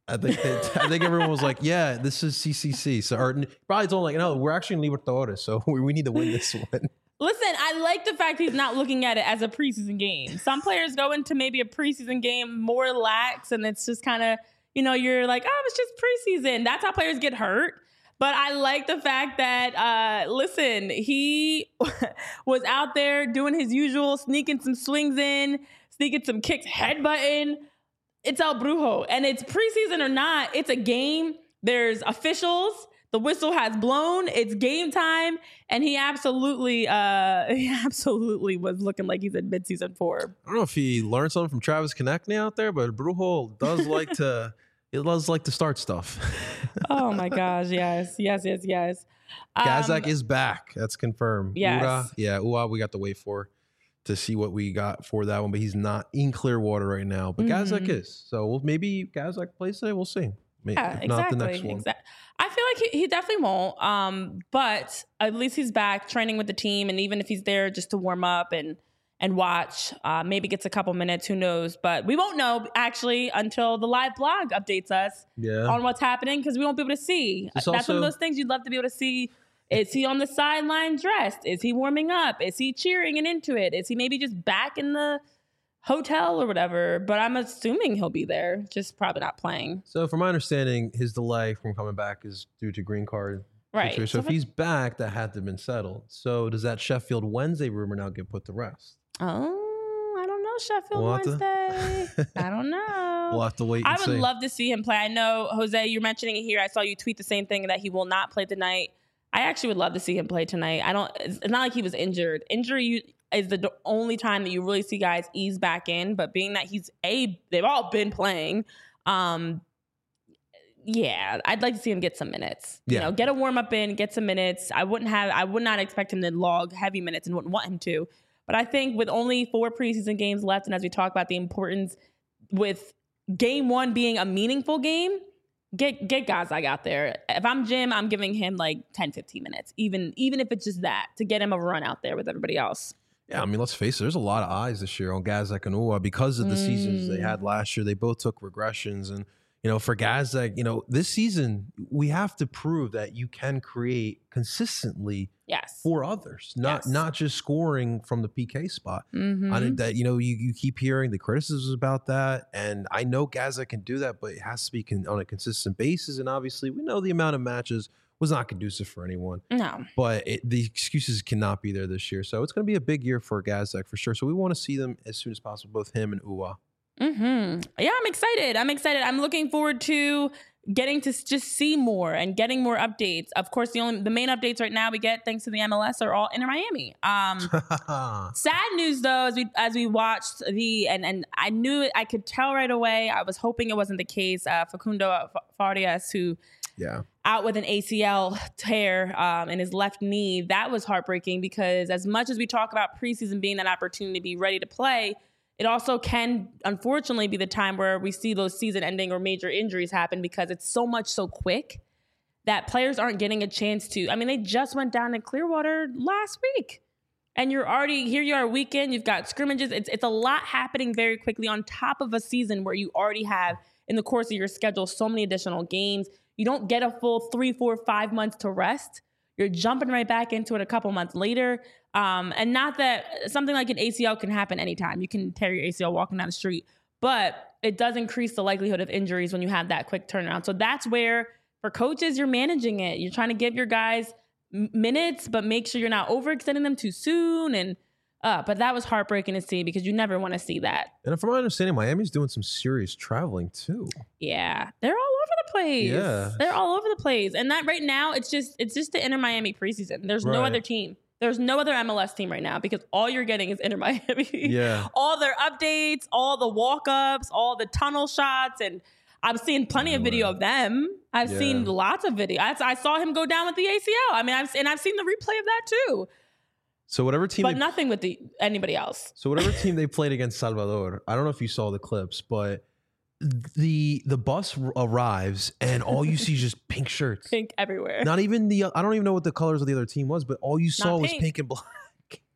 I think they, I think everyone was like, yeah, this is C C C. So or probably told like, no, we're actually in Libertadores, so we, we need to win this one. Listen, I like the fact he's not looking at it as a preseason game. Some players go into maybe a preseason game more lax, and it's just kind of, you know, you're like, oh, it's just preseason. That's how players get hurt. But I like the fact that, uh, listen, he was out there doing his usual, sneaking some swings in, sneaking some kicks, headbutting. It's El Brujo. And it's preseason or not, it's a game. There's officials. The whistle has blown. It's game time. And he absolutely, uh, he absolutely was looking like he's in mid-season four. I don't know if he learned something from Travis Konechny out there, but Brujo does like to... It does like to start stuff. Oh my gosh, yes, yes, yes, yes. Um, Gazak is back. That's confirmed. Yes. Ura, yeah, Ua, we got to wait for to see what we got for that one, but he's not in Clearwater right now. But Mhm. Gazak is. So we'll, maybe Gazak plays today. We'll see. Maybe, Yeah, if exactly. not the next one. Exactly. I feel like he, he definitely won't. Um, but at least he's back training with the team, and even if he's there just to warm up and and watch, uh, maybe gets a couple minutes. Who knows? But we won't know actually until the live blog updates us Yeah. on what's happening because we won't be able to see. It's That's one also- of those things you'd love to be able to see. Is he on the sideline dressed? Is he warming up? Is he cheering and into it? Is he maybe just back in the hotel or whatever? But I'm assuming he'll be there, just probably not playing. So from my understanding, his delay from coming back is due to green card. Right. situation. So, So if if- he's back, that had to have been settled. So does that Sheffield Wednesday rumor now get put to rest? Oh, I don't know, Sheffield We'll have to- Wednesday. I don't know. We'll have to wait and I would see. love to see him play. I know, Jose, you're mentioning it here. I saw you tweet the same thing that he will not play tonight. I actually would love to see him play tonight. I don't. It's not like he was injured. Injury is the d- only time that you really see guys ease back in. But being that he's a, they've all been playing. Um, yeah, I'd like to see him get some minutes. You Yeah. know, get a warm up in, get some minutes. I wouldn't have. I would not expect him to log heavy minutes and wouldn't want him to. But I think with only four preseason games left, and as we talk about the importance with game one being a meaningful game, get get guys like out there. If I'm Jim, I'm giving him like ten, fifteen minutes, even even if it's just that, to get him a run out there with everybody else. Yeah, I mean, let's face it. There's a lot of eyes this year on Gazak and Ua because of the seasons they Mm. had last year. They both took regressions, and you know, for Gazak, you know, this season we have to prove that you can create consistently Yes. for others, not Yes. not just scoring from the P K spot. Mhm. I think that you know you, you keep hearing the criticisms about that, and I know Gazak can do that, but it has to be con- on a consistent basis. And obviously, we know the amount of matches was not conducive for anyone. No. But it, the excuses cannot be there this year. So it's going to be a big year for Gazak for sure. So we want to see them as soon as possible, both him and Ua. Hmm. Yeah, I'm excited. I'm excited. I'm looking forward to getting to s- just see more and getting more updates. Of course, the only the main updates right now we get thanks to the M L S are all Inter Miami. Um, sad news though, as we as we watched the and and I knew it. I could tell right away. I was hoping it wasn't the case. Uh, Facundo Farias, who yeah. out with an A C L tear um, in his left knee. That was heartbreaking because as much as we talk about preseason being that opportunity to be ready to play, it also can, unfortunately, be the time where we see those season-ending or major injuries happen because it's so much so quick that players aren't getting a chance to. I mean, they just went down to Clearwater last week. And you're already, here you are weekend, you've got scrimmages. It's, it's a lot happening very quickly on top of a season where you already have, in the course of your schedule, so many additional games. You don't get a full three, four, five months to rest. You're jumping right back into it a couple months later. Um, and not that something like an A C L can happen anytime. You can tear your A C L walking down the street, but it does increase the likelihood of injuries when you have that quick turnaround. So that's where, for coaches, you're managing it. You're trying to give your guys m- minutes, but make sure you're not overextending them too soon. And uh, but that was heartbreaking to see because you never want to see that. And from my understanding, Miami's doing some serious traveling too. Yeah, they're all over the place. Yeah. They're all over the place. And that right now, it's just it's just the Inter Miami preseason. There's no Right. other team. There's no other M L S team right now because all you're getting is Inter Miami. Yeah. All their updates, all the walk-ups, all the tunnel shots, and I'm seeing plenty of video of them. I've Yeah. seen lots of video. I, I saw him go down with the A C L. I mean, I've and I've seen the replay of that too. So whatever team, But they, nothing with the anybody else. so whatever team they played against Salvador, I don't know if you saw the clips, but the the bus r- arrives and all you see is just pink shirts. Pink everywhere. Not even the I don't even know what the colors of the other team was, but all you saw Not was pink. pink and black.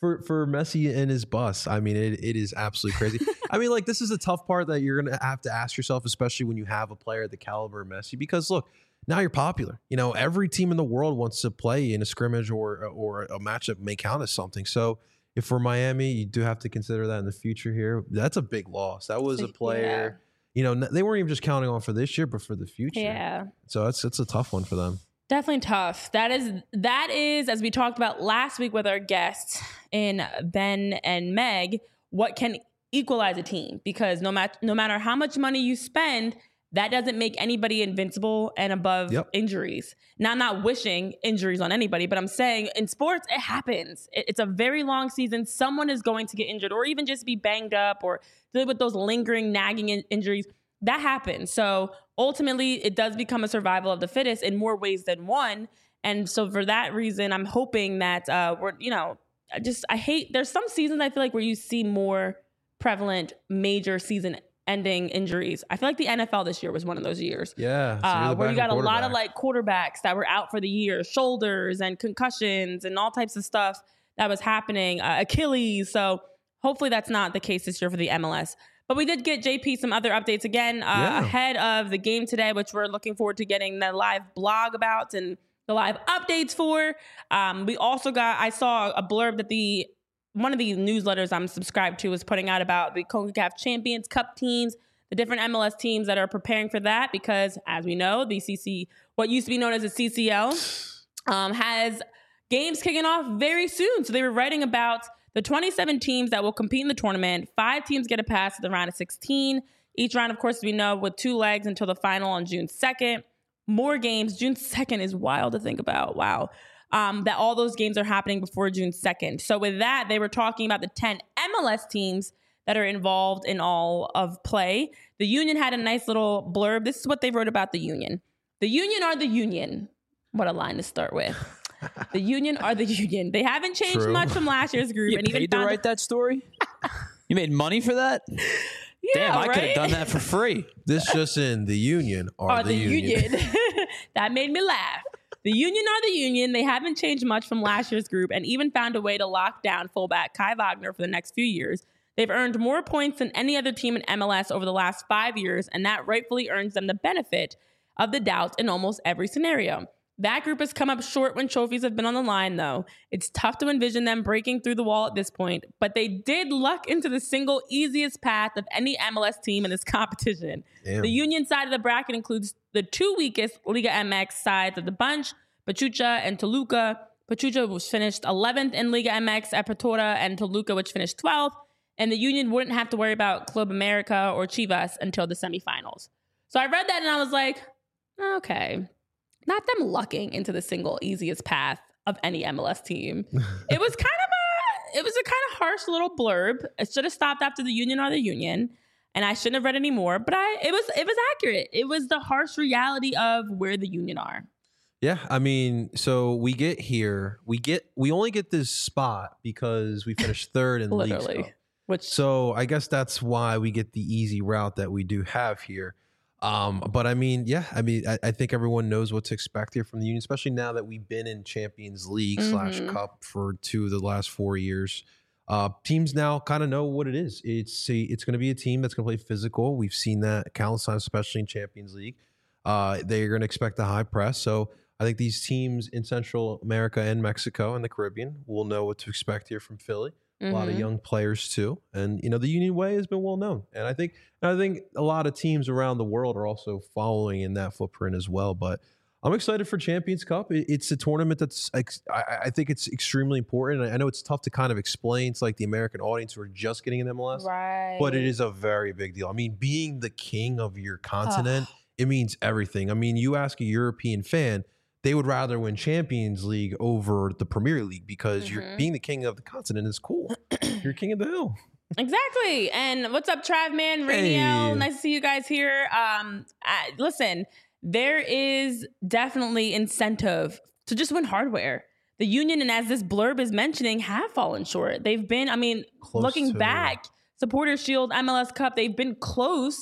for for Messi and his bus. I mean, it, it is absolutely crazy. I mean, like, this is a tough part that you're gonna have to ask yourself, especially when you have a player at the caliber of Messi, because look, now you're popular. You know, every team in the world wants to play in a scrimmage or or a match that may count as something. So if for Miami, you do have to consider that in the future here. That's a big loss. That was a player, yeah. you know, they weren't even just counting on for this year, but for the future. Yeah. So that's it's a tough one for them. Definitely tough. That is, that is, as we talked about last week with our guests in Ben and Meg, what can equalize a team? Because no matter no matter how much money you spend, that doesn't make anybody invincible and above yep. injuries. Now, I'm not wishing injuries on anybody, but I'm saying in sports, it happens. It, it's a very long season. Someone is going to get injured or even just be banged up or deal with those lingering, nagging in- injuries. That happens. So ultimately, it does become a survival of the fittest in more ways than one. And so for that reason, I'm hoping that uh, we're, you know, I just, I hate, there's some seasons I feel like where you see more prevalent major season ending injuries. I feel like the N F L this year was one of those years. Yeah. So uh, where you got a lot of like quarterbacks that were out for the year, shoulders and concussions and all types of stuff that was happening, uh, Achilles. So hopefully that's not the case this year for the M L S. But we did get J P some other updates again uh, yeah. ahead of the game today, which we're looking forward to getting the live blog about and the live updates for. Um, we also got, I saw a blurb that the one of the newsletters I'm subscribed to was putting out about the CONCACAF Champions Cup teams, the different M L S teams that are preparing for that, because as we know, the C C, what used to be known as the C C L, um, has games kicking off very soon. So they were writing about the twenty-seven teams that will compete in the tournament. Five teams get a pass to the round of sixteen. Each round, of course, we know, with two legs until the final on June second. More games. June second is wild to think about. Wow. Um, that all those games are happening before June second. So with that, they were talking about the ten M L S teams that are involved in all of play. The Union had a nice little blurb. This is what they wrote about the Union. The Union are the Union. What a line to start with. The Union are the Union. They haven't changed True. much from last year's group. You and paid even to write that story? You made money for that? Yeah, Damn, I right? could have done that for free. This just in, the Union are, are the, the Union. union. That made me laugh. The Union are the Union. They haven't changed much from last year's group and even found a way to lock down fullback Kai Wagner for the next few years. They've earned more points than any other team in M L S over the last five years, and that rightfully earns them the benefit of the doubt in almost every scenario. That group has come up short when trophies have been on the line, though. It's tough to envision them breaking through the wall at this point, but they did luck into the single easiest path of any M L S team in this competition. Damn. The Union side of the bracket includes the two weakest Liga M X sides of the bunch, Pachuca and Toluca. Pachuca was finished eleventh in Liga M X at Portora, and Toluca, which finished twelfth. And the Union wouldn't have to worry about Club America or Chivas until the semifinals. So I read that and I was like, okay. Not them lucking into the single easiest path of any M L S team. It was kind of a, it was a kind of harsh little blurb. It should have stopped after the Union or the Union, and I shouldn't have read any more. But I, it was, it was accurate. It was the harsh reality of where the Union are. Yeah, I mean, so we get here, we get, we only get this spot because we finished third in the Literally, league. which so I guess that's why we get the easy route that we do have here. Um, but I mean, yeah, I mean, I, I think everyone knows what to expect here from the Union, especially now that we've been in Champions League mm-hmm. slash Cup for two of the last four years. Uh, teams now kind of know what it is. It's a, it's going to be a team that's going to play physical. We've seen that countless times, especially in Champions League. Uh, they're going to expect a high press. So I think these teams in Central America and Mexico and the Caribbean will know what to expect here from Philly. Mm-hmm. A lot of young players too, and you know the Union way has been well known, and I think and I think a lot of teams around the world are also following in that footprint as well. But I'm excited for Champions Cup. It, it's a tournament that's I, I think it's extremely important. I know it's tough to kind of explain to like the American audience who are just getting in M L S, right? But it is a very big deal. I mean, being the king of your continent, it means everything. I mean, you ask a European fan, they would rather win Champions League over the Premier League because mm-hmm. you're being the king of the continent is cool. You're king of the hill. Exactly. And what's up, Trav Man, Radio? Hey. Nice to see you guys here. Um, I, listen, there is definitely incentive to just win hardware. The Union, and as this blurb is mentioning, have fallen short. They've been, I mean, close looking to back, Supporters Shield, M L S Cup, they've been close,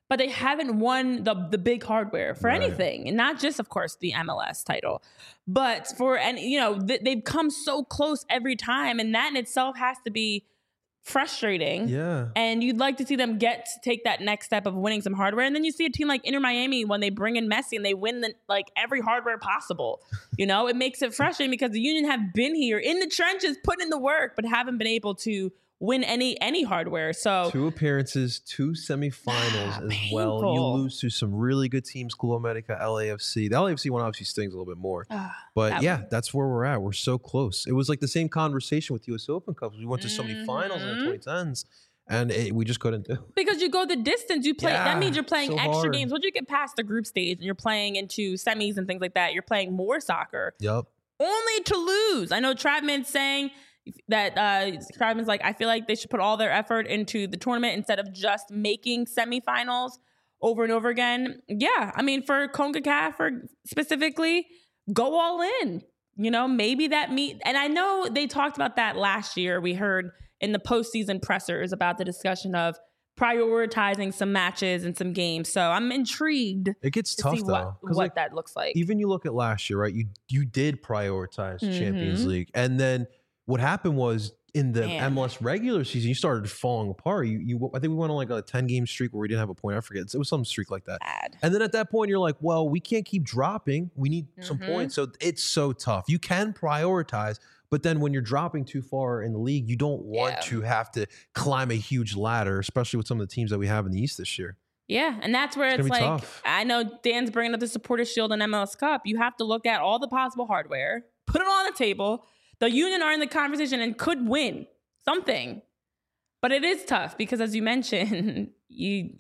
but they haven't won the the big hardware for Right. anything, and not just, of course, the M L S title, but for any, you know, th- they've come so close every time, and that in itself has to be frustrating. Yeah. And you'd like to see them get to take that next step of winning some hardware, and then you see a team like Inter Miami when they bring in Messi and they win the, like every hardware possible. You know, it makes it frustrating because the Union have been here in the trenches, putting in the work, but haven't been able to win any any hardware. So Two appearances, two semifinals Ah, as well. You painful. lose to some really good teams, Club America, L A F C. The L A F C one obviously stings a little bit more. ah, But that yeah, one. that's where we're at. We're so close. It was like the same conversation with U S Open Cups. We went to so many finals in the Mhm. twenty tens, and it, we just couldn't do it. because you go the distance, you play. Yeah, that means you're playing so extra hard. games. Once you get past the group stage and you're playing into semis and things like that, you're playing more soccer. Yep. Only to lose. I know Travis saying that uh Travis like, I feel like they should put all their effort into the tournament instead of just making semifinals over and over again. Yeah, I mean, for CONCACAF for specifically, go all in. You know, maybe that meet. And I know they talked about that last year. We heard in the postseason pressers about the discussion of prioritizing some matches and some games. So I'm intrigued It gets to tough see though. what, 'cause, what like, that looks like. even you look at last year, right? You you did prioritize Champions Mhm. League, and then what happened was in the Man. M L S regular season, you started falling apart. You you I think we went on like a ten game streak where we didn't have a point. I forget. It was some streak like that. Bad. And then at that point, you're like, well, we can't keep dropping. We need some Mhm. points. So it's so tough. You can prioritize, but then when you're dropping too far in the league, you don't want Yeah. to have to climb a huge ladder, especially with some of the teams that we have in the East this year. Yeah, and that's where It's it's, gonna be like, tough. I know Dan's bringing up the Supporter Shield and M L S Cup. You have to look at all the possible hardware, put it on the table. The Union are in the conversation and could win something, but it is tough because, as you mentioned, you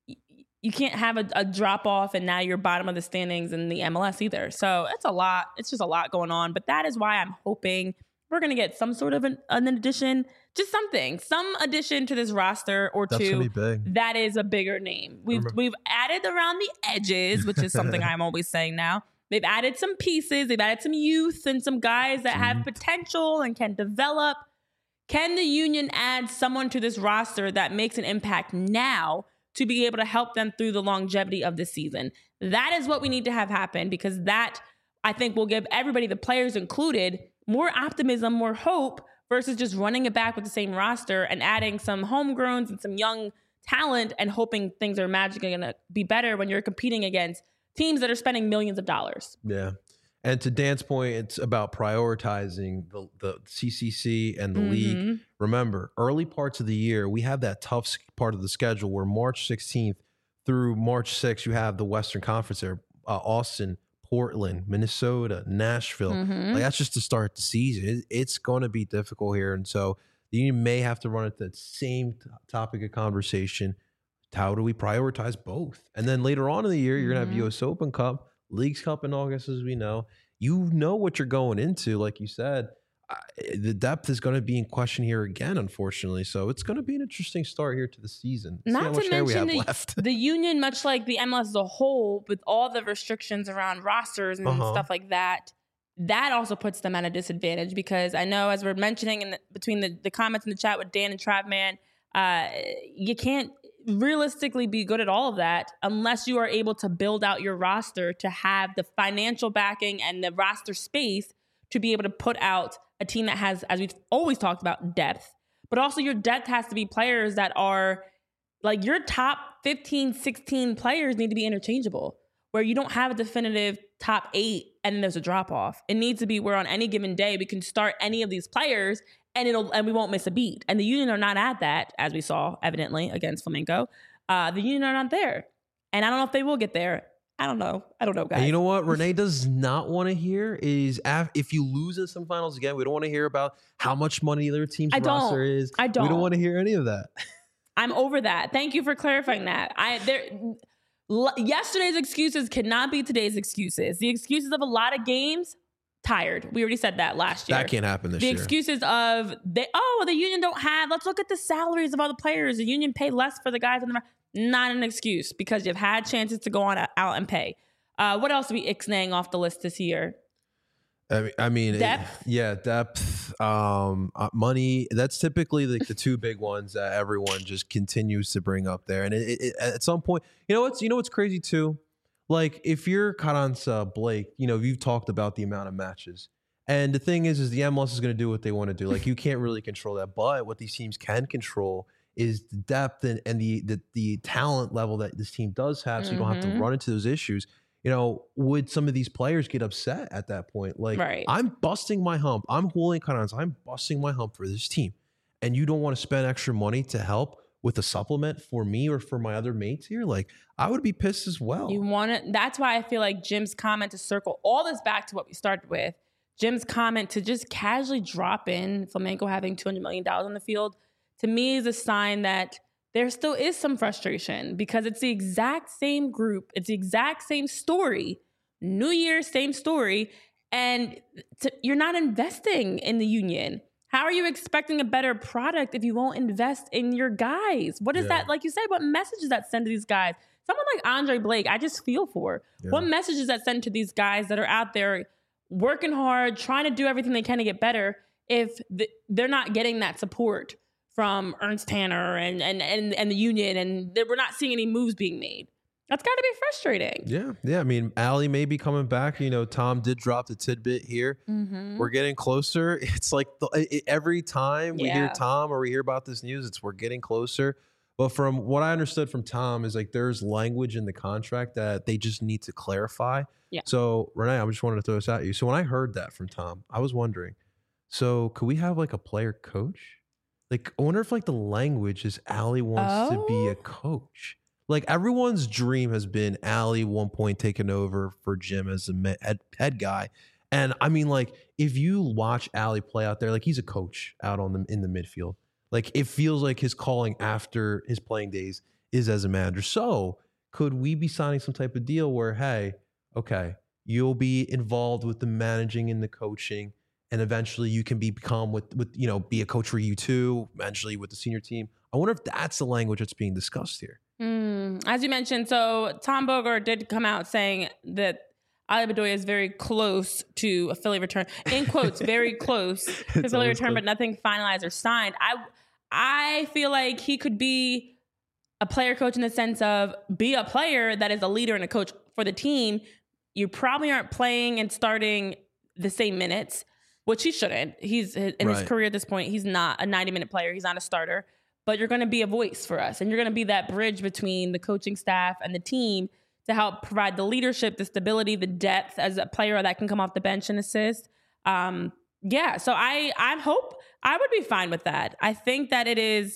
you can't have a, a drop off and now you're bottom of the standings in the M L S either. So it's a lot. It's just a lot going on. But that is why I'm hoping we're going to get some sort of an, an addition, just something, some addition to this roster or That's two gonna be big. that is a bigger name. We've Remember- we've added around the edges, which is something I'm always saying now. They've added some pieces, they've added some youth and some guys that have potential and can develop. Can the Union add someone to this roster that makes an impact now to be able to help them through the longevity of the season? That is what we need to have happen, because that, I think, will give everybody, the players included, more optimism, more hope, versus just running it back with the same roster and adding some homegrowns and some young talent and hoping things are magically going to be better when you're competing against teams that are spending millions of dollars. Yeah. And to Dan's point, it's about prioritizing the, the C C C and the league. Mhm. Remember, early parts of the year, we have that tough s- part of the schedule where March sixteenth through March sixth, you have the Western Conference there, uh, Austin, Portland, Minnesota, Nashville. Mhm. Like, that's just to start the season. It, it's going to be difficult here. And so the Union may have to run at that same t- topic of conversation. How do we prioritize both? And then later on in the year, you're going to have Mhm. U S Open Cup, Leagues Cup in August, as we know. You know what you're going into, like you said. I, the depth is going to be in question here again, unfortunately. So it's going to be an interesting start here to the season. See how Not much to hair we mention have the, left. the Union, much like the M L S as a whole, with all the restrictions around rosters and Uh-huh. stuff like that, that also puts them at a disadvantage, because I know, as we're mentioning in the, between the, the comments in the chat with Dan and Travman, uh, you can't realistically be good at all of that unless you are able to build out your roster to have the financial backing and the roster space to be able to put out a team that has, as we've always talked about, depth. But also your depth has to be players that are like, your top fifteen, sixteen players need to be interchangeable, where you don't have a definitive top eight and then there's a drop off. It needs to be where on any given day we can start any of these players and it'll and we won't miss a beat. And the Union are not at that, as we saw evidently against Flamengo. Uh, the Union are not there, and I don't know if they will get there. I don't know. I don't know, guys. And you know what Renee does not want to hear is af- if you lose in some finals again, we don't want to hear about how much money their team's I don't. roster is. I We don't don't. want to hear any of that. I'm over that. Thank you for clarifying that. I there l- yesterday's excuses cannot be today's excuses. The excuses of a lot of games, tired. We already said that last year. That can't happen this the year. excuses of they oh the Union don't have, let's look at the salaries of all the players. The Union pay less for the guys in the, not an excuse, because you've had chances to go on out and pay. Uh, what else are we ixnaying off the list this year? I mean, I mean, Depth? It, yeah, depth, um, uh, money. That's typically like the two big ones that everyone just continues to bring up there. And it, it, it, at some point, you know what's you know what's crazy too, like if you're Carranza Blake, you know you've talked about the amount of matches, and the thing is, is the M L S is going to do what they want to do. Like you can't really control that, but what these teams can control is the depth and, and the, the the talent level that this team does have, so you don't have to Mhm. run into those issues. You know, would some of these players get upset at that point? Like, Right. I'm busting my hump. I'm Julian Carranza. I'm busting my hump for this team. And you don't want to spend extra money to help with a supplement for me or for my other mates here? Like, I would be pissed as well. You want to, that's why I feel like Jim's comment to circle all this back to what we started with. Jim's comment to just casually drop in Flamengo having two hundred million dollars on the field, to me is a sign that there still is some frustration because it's the exact same group. It's the exact same story. New Year, same story. And to, you're not investing in the union. How are you expecting a better product if you won't invest in your guys? What is Yeah. that? Like you said, what message does that send to these guys? Someone like Andre Blake, I just feel for. Yeah. What message does that send to these guys that are out there working hard, trying to do everything they can to get better if the, they're not getting that support from Ernst Tanner and, and, and, and the union, and we're not seeing any moves being made? That's got to be frustrating. Yeah, yeah. I mean, Allie may be coming back. You know, Tom did drop the tidbit here. Mm-hmm. We're getting closer. It's like the, it, every time we hear Yeah. Tom or we hear about this news, it's we're getting closer. But from what I understood from Tom is like there's language in the contract that they just need to clarify. Yeah. So Renee, I just wanted to throw this at you. So when I heard that from Tom, I was wondering, so could we have like a player coach? Like, I wonder if like the language is Allie wants to be Oh. a coach. Like everyone's dream has been Allie one point taking over for Jim as a me- head, head guy. And I mean, like, if you watch Allie play out there, like he's a coach out on the in the midfield. Like it feels like his calling after his playing days is as a manager. So could we be signing some type of deal where, hey, okay, you'll be involved with the managing and the coaching, and eventually you can be become with with you know be a coach for you too, eventually with the senior team. I wonder if that's the language that's being discussed here. Mm, as you mentioned, so Tom Bogart did come out saying that Ali Bedoya is very close to a Philly return. In quotes, very close to It's Philly always return, close. but nothing finalized or signed. I I feel like he could be a player coach in the sense of be a player that is a leader and a coach for the team. You probably aren't playing and starting the same minutes, which he shouldn't. He's in his Right. career at this point, he's not a ninety minute player. He's not a starter. But you're going to be a voice for us, and you're going to be that bridge between the coaching staff and the team to help provide the leadership, the stability, the depth as a player that can come off the bench and assist. Um, yeah, so I I hope I would be fine with that. I think that it is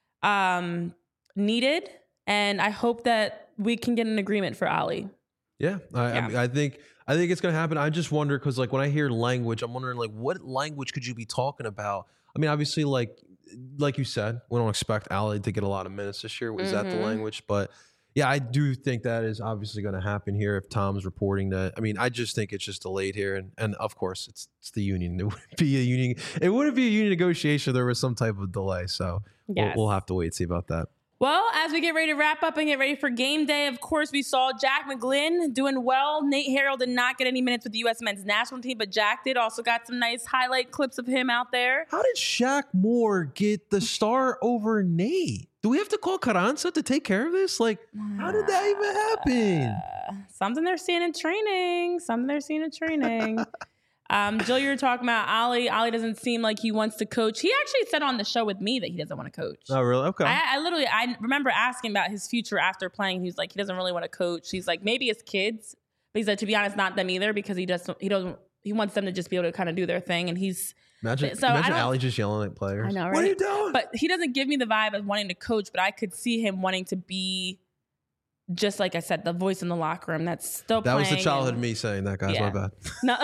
um, needed, and I hope that we can get an agreement for Ali. Yeah, I, Yeah. I, mean, I think I think it's gonna happen. I just wonder because like when I hear language, I'm wondering like what language could you be talking about? I mean, obviously, like like you said, we don't expect Ali to get a lot of minutes this year. Is that the Mhm. language? But yeah, I do think that is obviously going to happen here if Tom's reporting that. I mean, I just think it's just delayed here, and and of course it's it's the union. It wouldn't be a union. It wouldn't be a union negotiation. If there was some type of delay. So we'll, Yes. we'll have to wait and see about that. Well, as we get ready to wrap up and get ready for game day, of course, we saw Jack McGlynn doing well. Nate Harrell did not get any minutes with the U S men's national team, but Jack did. Also got some nice highlight clips of him out there. How did Shaq Moore get the star over Nate? Do we have to call Carranza to take care of this? Like, how did that even happen? Uh, something they're seeing in training. Something they're seeing in training. um, Jill, you were talking about Ali. Ali doesn't seem like he wants to coach. He actually said on the show with me that he doesn't want to coach. Oh, really? Okay. I, I literally, I remember asking about his future after playing. He was like, he doesn't really want to coach. He's like, maybe his kids, but he's like, to be honest, not them either, because he doesn't, he doesn't, he wants them to just be able to kind of do their thing. And he's, imagine so I imagine don't- Ali just yelling at players. I know, What are right? you doing? but he doesn't give me the vibe of wanting to coach, but I could see him wanting to be, just like I said, the voice in the locker room that's still that was the playing childhood and- me saying that, guys. Yeah. My bad. No.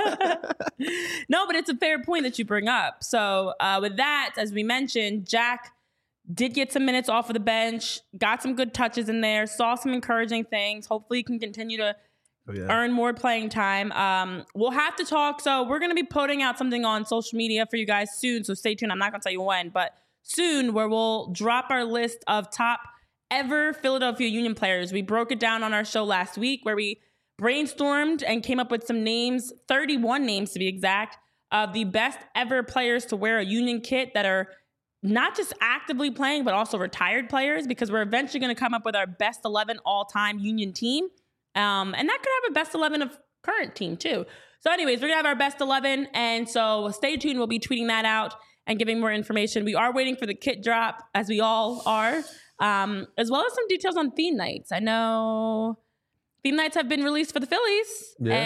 No, but it's a fair point that you bring up. So uh, with that, as we mentioned, Jack did get some minutes off of the bench, got some good touches in there, saw some encouraging things. Hopefully he can continue to Oh, yeah. earn more playing time. Um, we'll have to talk. So we're going to be putting out something on social media for you guys soon. So stay tuned. I'm not going to tell you when, but soon, where we'll drop our list of top ever Philadelphia Union players. We broke it down on our show last week where we brainstormed and came up with some names, thirty-one names to be exact, of the best ever players to wear a Union kit that are not just actively playing, but also retired players, because we're eventually going to come up with our best eleven all-time Union team. Um, and that could have a best eleven of current team too. So anyways, we're going to have our best eleven. And so stay tuned. We'll be tweeting that out and giving more information. We are waiting for the kit drop, as we all are, um, as well as some details on theme nights. I know theme nights have been released for the Phillies, yeah.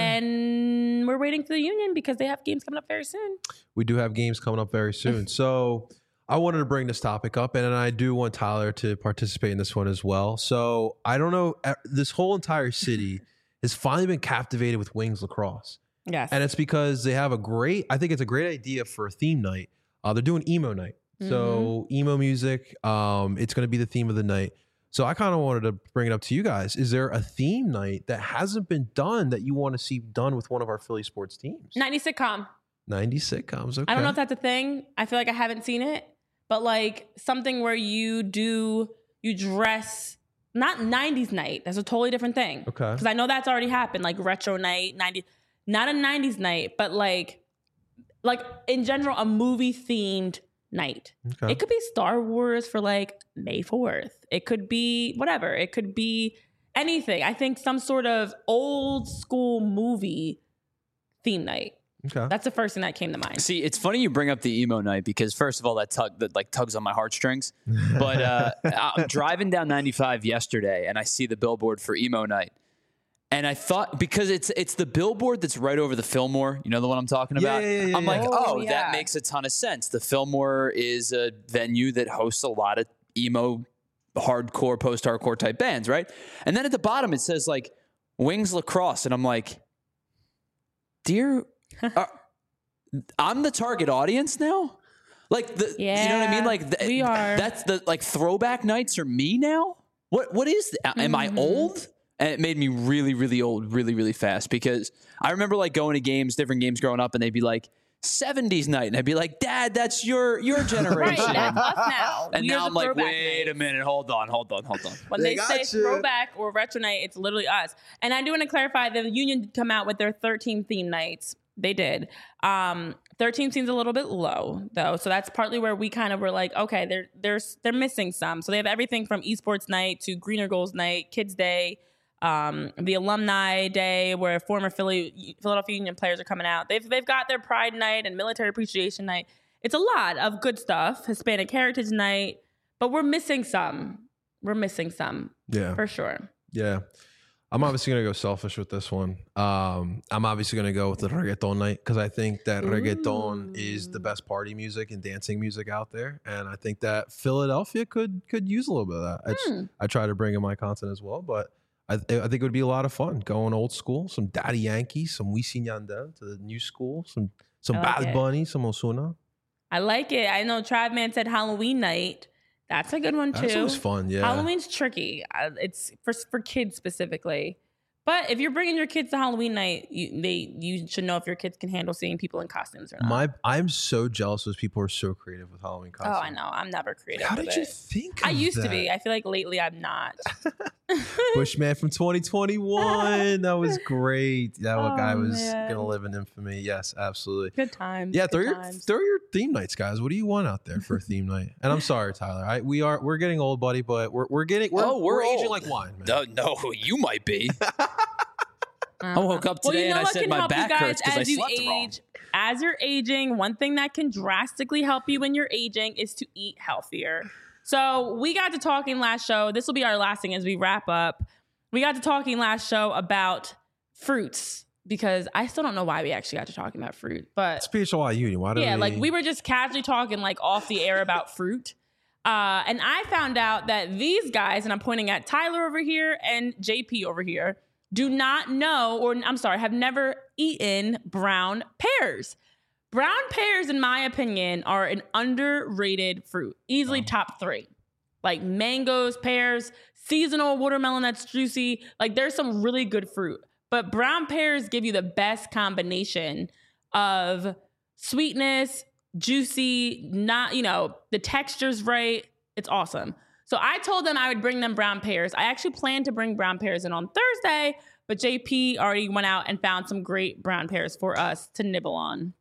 and we're waiting for the Union because they have games coming up very soon. We do have games coming up very soon. So I wanted to bring this topic up, and I do want Tyler to participate in this one as well. So I don't know, this whole entire city has finally been captivated with Wings Lacrosse. Yes. And it's because they have a great, I think it's a great idea for a theme night. Uh, they're doing emo night. Mm-hmm. So emo music, um, it's going to be the theme of the night. So I kind of wanted to bring it up to you guys. Is there a theme night that hasn't been done that you want to see done with one of our Philly sports teams? nineties sitcom. nineties sitcoms, okay. I don't know if that's a thing. I feel like I haven't seen it. But like something where you do, you dress, not nineties night. That's a totally different thing. Okay. Because I know that's already happened, like retro night, nineties, not a nineties night, but like, like in general, a movie themed night. Okay. It could be Star Wars for like May fourth. It could be whatever. It could be anything. I think some sort of old school movie theme night. Okay. That's the first thing that came to mind. See, it's funny you bring up the emo night because first of all, that tug that like tugs on my heartstrings. But uh, I'm driving down ninety-five yesterday and I see the billboard for emo night. And I thought, because it's it's the billboard that's right over the Fillmore, you know the one I'm talking about? Yeah, yeah, yeah, I'm yeah. like, Oh, oh, yeah. that makes a ton of sense. The Fillmore is a venue that hosts a lot of emo, hardcore, post-hardcore type bands, right? And then at the bottom it says like Wings Lacrosse. And I'm like, dear, uh, I'm the target audience now? Like, the, yeah, you know what I mean? Like, the, we are. That's the, like, throwback nights are me now? What What is that? Am Mm-hmm. I old? And it made me really, really old, really, really fast, because I remember like going to games, different games growing up, and they'd be like seventies night, and I'd be like, Dad, that's your your generation. Right, that's us now. And We now are I'm the like, throwback wait night. a minute, hold on, hold on, hold on. When They they, got say you. throwback or retro night, it's literally us. And I do want to clarify, the Union did come out with their thirteen theme nights. They did. Um, thirteen seems a little bit low, though. So that's partly where we kind of were like, okay, they're, they're, they're missing some. So they have everything from esports night to Greener Goals night, Kids Day, um, the Alumni Day, where former Philly, Philadelphia Union players are coming out. They've, they've got their Pride Night and Military Appreciation Night. It's a lot of good stuff. Hispanic Heritage Night. But we're missing some. We're missing some. Yeah. For sure. Yeah. I'm obviously going to go selfish with this one. Um, I'm obviously going to go with the reggaeton night because I think that reggaeton Ooh. is the best party music and dancing music out there. And I think that Philadelphia could could use a little bit of that. I, just, Hmm. I try to bring in my content as well, but I, I think it would be a lot of fun going old school, some Daddy Yankee, some Wisin Yandel to the new school, some some I like Bad it. Bunny, some Ozuna. I like it. I know Tribe Man said Halloween night. That's a good one too. That's always fun, yeah. Halloween's tricky. Uh, It's for for kids specifically. But if you're bringing your kids to Halloween night, you, they you should know if your kids can handle seeing people in costumes or not. My I'm so jealous those people are so creative with Halloween costumes. oh, I know. I'm never creative. How with did you it. think? I of used to that? be. I feel like lately I'm not. Bushman from twenty twenty-one. That was great. That Oh, guy was man. gonna live in infamy. Yes, absolutely. Good times. Yeah, good throw your times. throw your theme nights, guys. What do you want out there for a theme night? And I'm sorry, Tyler. I we are we're getting old, buddy, but we're we're getting we're, Oh, we're aging old. like wine, man. No, no, you might be. I woke up Well, today you know and I what said can my help you back guys hurts because I as you slept wrong. age. As you're aging, one thing that can drastically help you when you're aging is to eat healthier. So we got to talking last show. This will be our last thing as we wrap up. We got to talking last show about fruits because I still don't know why we actually got to talking about fruit, but It's P H L Y Uni. Why do yeah, we? like we were just casually talking like off the air about fruit. Uh, and I found out that these guys, and I'm pointing at Tyler over here and J P over here, do not know, or I'm sorry, have never eaten brown pears. Brown pears, in my opinion, are an underrated fruit. Easily top three. Like mangoes, pears, seasonal watermelon that's juicy. Like there's some really good fruit. But brown pears give you the best combination of sweetness, juicy, not, you know, the texture's right. It's awesome. So I told them I would bring them brown pears. I actually planned to bring brown pears in on Thursday, but J P already went out and found some great brown pears for us to nibble on.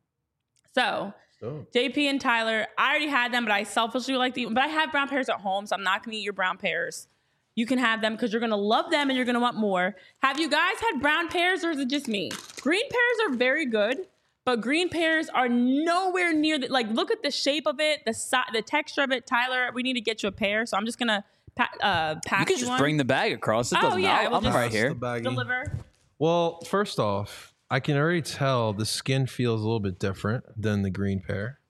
So Oh. J P and Tyler, I already had them, but I selfishly like to eat. But I have brown pears at home, so I'm not going to eat your brown pears. You can have them because you're going to love them and you're going to want more. Have you guys had brown pears or is it just me? Green pears are very good, but green pears are nowhere near the, like, look at the shape of it, the si- the texture of it. Tyler, we need to get you a pear, so I'm just going to pa- uh, pack You can you just one. bring the bag across. It Oh, doesn't yeah, I matter. will I'm just- right here. The baggie. Deliver. Well, first off, I can already tell the skin feels a little bit different than the green pear,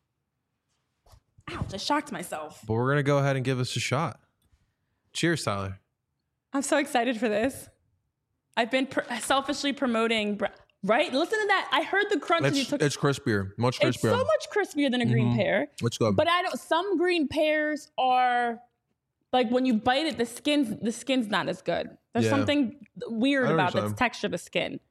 Ouch, I shocked myself. but we're gonna go ahead and give us a shot. Cheers, Tyler. I'm so excited for this. I've been pr- selfishly promoting, br- right? Listen to that. I heard the crunch and you It's, took it's crispier, much It's crispier. so much crispier than a green Mhm. pear. Let's go. But I don't. Some green pears are like when you bite it, the skin's the skin's not as good. There's Yeah. something weird I about the understand. texture of the skin.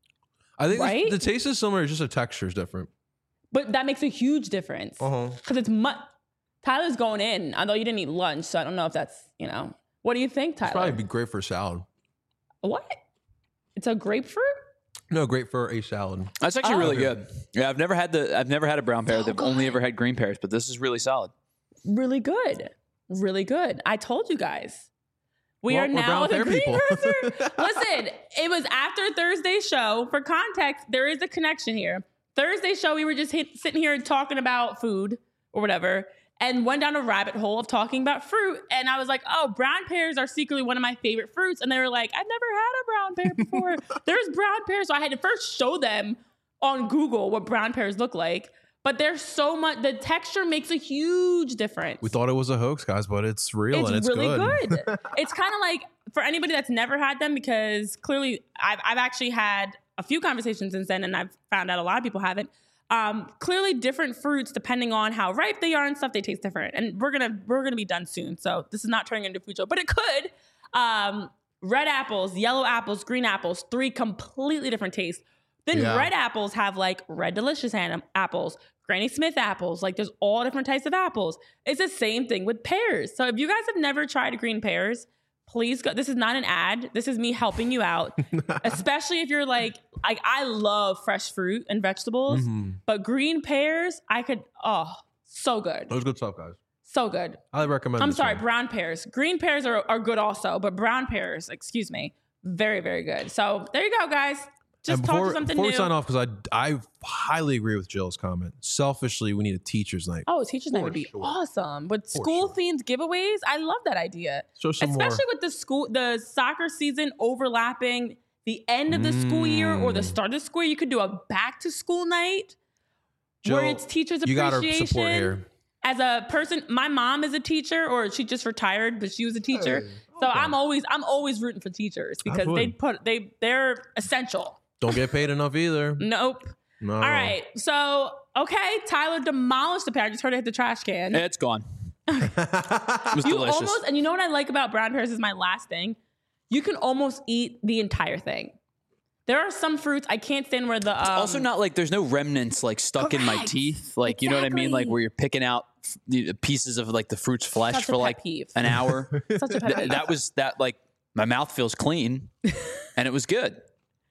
I think right? the, the taste is similar, just the texture is different. But that makes a huge difference Uh because huh. it's much. Tyler's going in, although you didn't eat lunch, so I don't know if that's you know. What do you think, Tyler? Probably be great for salad. What? It's a grapefruit. No, great for a salad. That's actually Oh. really good. Yeah, I've never had the I've never had a brown pear. So They've only good. ever had green pears, but this is really solid. Really good. Really good. I told you guys. We Well, are we're now brown the pear green people. cursor. Listen, it was after Thursday's show. For context, there is a connection here. Thursday show, we were just hit, sitting here talking about food or whatever, and went down a rabbit hole of talking about fruit. And I was like, oh, brown pears are secretly one of my favorite fruits. And they were like, I've never had a brown pear before. There's brown pears. So I had to first show them on Google what brown pears look like. But there's so much, the texture makes a huge difference. We thought it was a hoax, guys, but it's real It's and it's really good. good. It's kind of like for anybody that's never had them, because clearly I've, I've actually had a few conversations since then, and I've found out a lot of people haven't. Um, clearly, different fruits, depending on how ripe they are and stuff, they taste different. And we're gonna we're gonna be done soon, so this is not turning into a food show, but it could. Um, red apples, yellow apples, green apples, three completely different tastes. Then Yeah. red apples have like red delicious an- apples, Granny Smith apples. Like there's all different types of apples. It's the same thing with pears. So if you guys have never tried green pears, please go. This is not an ad. This is me helping you out. Especially if you're like, like I love fresh fruit and vegetables, Mhm. but green pears, I could, oh, so good. That was good stuff, guys. So good. I recommend. I'm this sorry, one. brown pears. Green pears are, are good also, but brown pears, excuse me, very, very good. So there you go, guys. Just and talk before, to something before new. we sign off, because I I highly agree with Jill's comment. Selfishly, we need a teacher's night. Oh, teachers night For would be sure. awesome. With For school sure. themed giveaways, I love that idea. Show some Especially more. with the school, the soccer season overlapping the end of the school year or the Mm. start of the school year. You could do a back to school night where Jill, it's teachers You got our appreciation. support here. As a person, my mom is a teacher, or she just retired, but she was a teacher. Hey, so okay. I'm always I'm always rooting for teachers because Absolutely. they put they they're essential. Don't get paid enough either. Nope. No. All right. So okay, Tyler demolished the pear. I just heard it hit the trash can. It's gone. It was You delicious. almost, and you know what I like about brown pears is my last thing. You can almost eat the entire thing. There are some fruits I can't stand where the um, also not like there's no remnants like stuck in my Correct. teeth. Like, you know what I mean? Exactly. Like where you're picking out f- the pieces of like the fruit's flesh Such a for pet like peeve. an hour. such a pet Th- peeve. that was that like my mouth feels clean and it was good.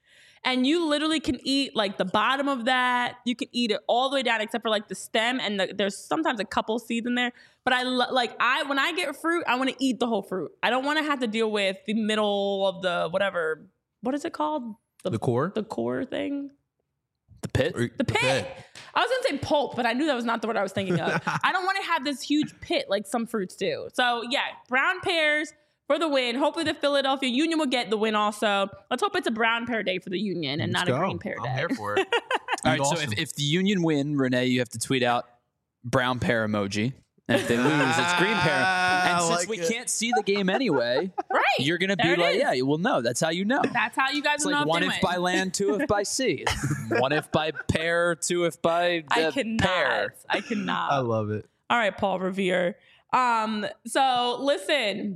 And you literally can eat like the bottom of that. You can eat it all the way down except for like the stem, and the, there's sometimes a couple seeds in there. But I lo- like I when I get fruit, I want to eat the whole fruit. I don't want to have to deal with the middle of the whatever. What is it called? The core. The core thing. The pit. Or- The pit. I was gonna say pulp, but I knew that was not the word I was thinking of. I don't want to have this huge pit like some fruits do. So yeah, brown pears for the win. Hopefully the Philadelphia Union will get the win also. Let's hope it's a brown pear day for the Union and Let's not go. a green pear day. I'm here for it. All right, Awesome. so if, if the Union win, Renee, you have to tweet out brown pear emoji. And if they lose, it's green pear. And I since like we it. can't see the game anyway, Right. you're gonna There be it like, is. yeah, you will know. That's how you know. That's how you guys It's will like know one if if they by win. land, two if by sea. One if by pair, two if by I uh, cannot. pair. I cannot. I love it. All right, Paul Revere. Um, so listen.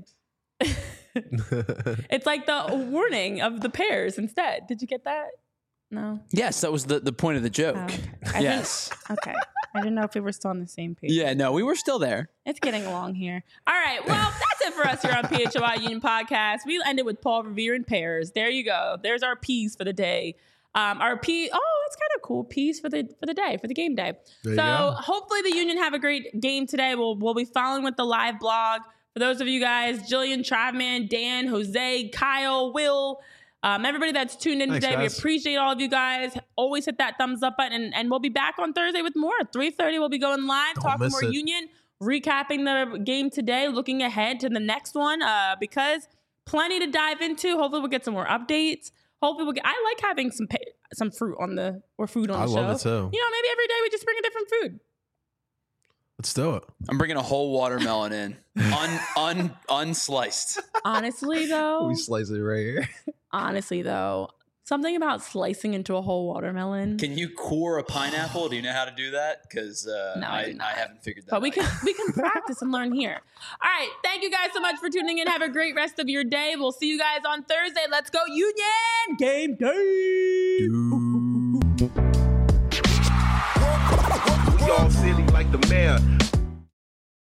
It's like the warning of the pears instead. Did you get that? No. Yes, that was the, the point of the joke. Oh, okay. I Yes. Think, okay. I didn't know if we were still on the same page. Yeah, no, we were still there. It's getting along here. All right. Well, that's it for us here on P H L Y Union Podcast. We ended with Paul Revere and pears. There you go. There's our P's for the day. Um, our P. Oh, that's kind of cool. P's for the for the day for the game day. There you So go. hopefully the Union have a great game today. We'll we'll be following with the live blog for those of you guys: Jillian, Travman, Dan, Jose, Kyle, Will. Um, everybody that's tuned in Thanks, today, guys. we appreciate all of you guys. Always hit that thumbs up button, and, and we'll be back on Thursday with more. At three thirty, we'll be going live, Don't talking miss more it. Union, recapping the game today, looking ahead to the next one, uh, because plenty to dive into. Hopefully, we'll get some more updates. Hopefully, we'll get. I like having some pa- some fruit on the or food on I the show. love it too. You know, maybe every day we just bring a different food. Let's do it. I'm bringing a whole watermelon in, un, un, unsliced. Honestly, though, We slice it right here. honestly though, something about slicing into a whole watermelon. Can you core a pineapple? Do you know how to do that? Because uh, No, I do I, not. I haven't figured that But out. we can we can practice and learn here. All right. Thank you guys so much for tuning in. Have a great rest of your day. We'll see you guys on Thursday. Let's go Union game day. We all silly like the mayor.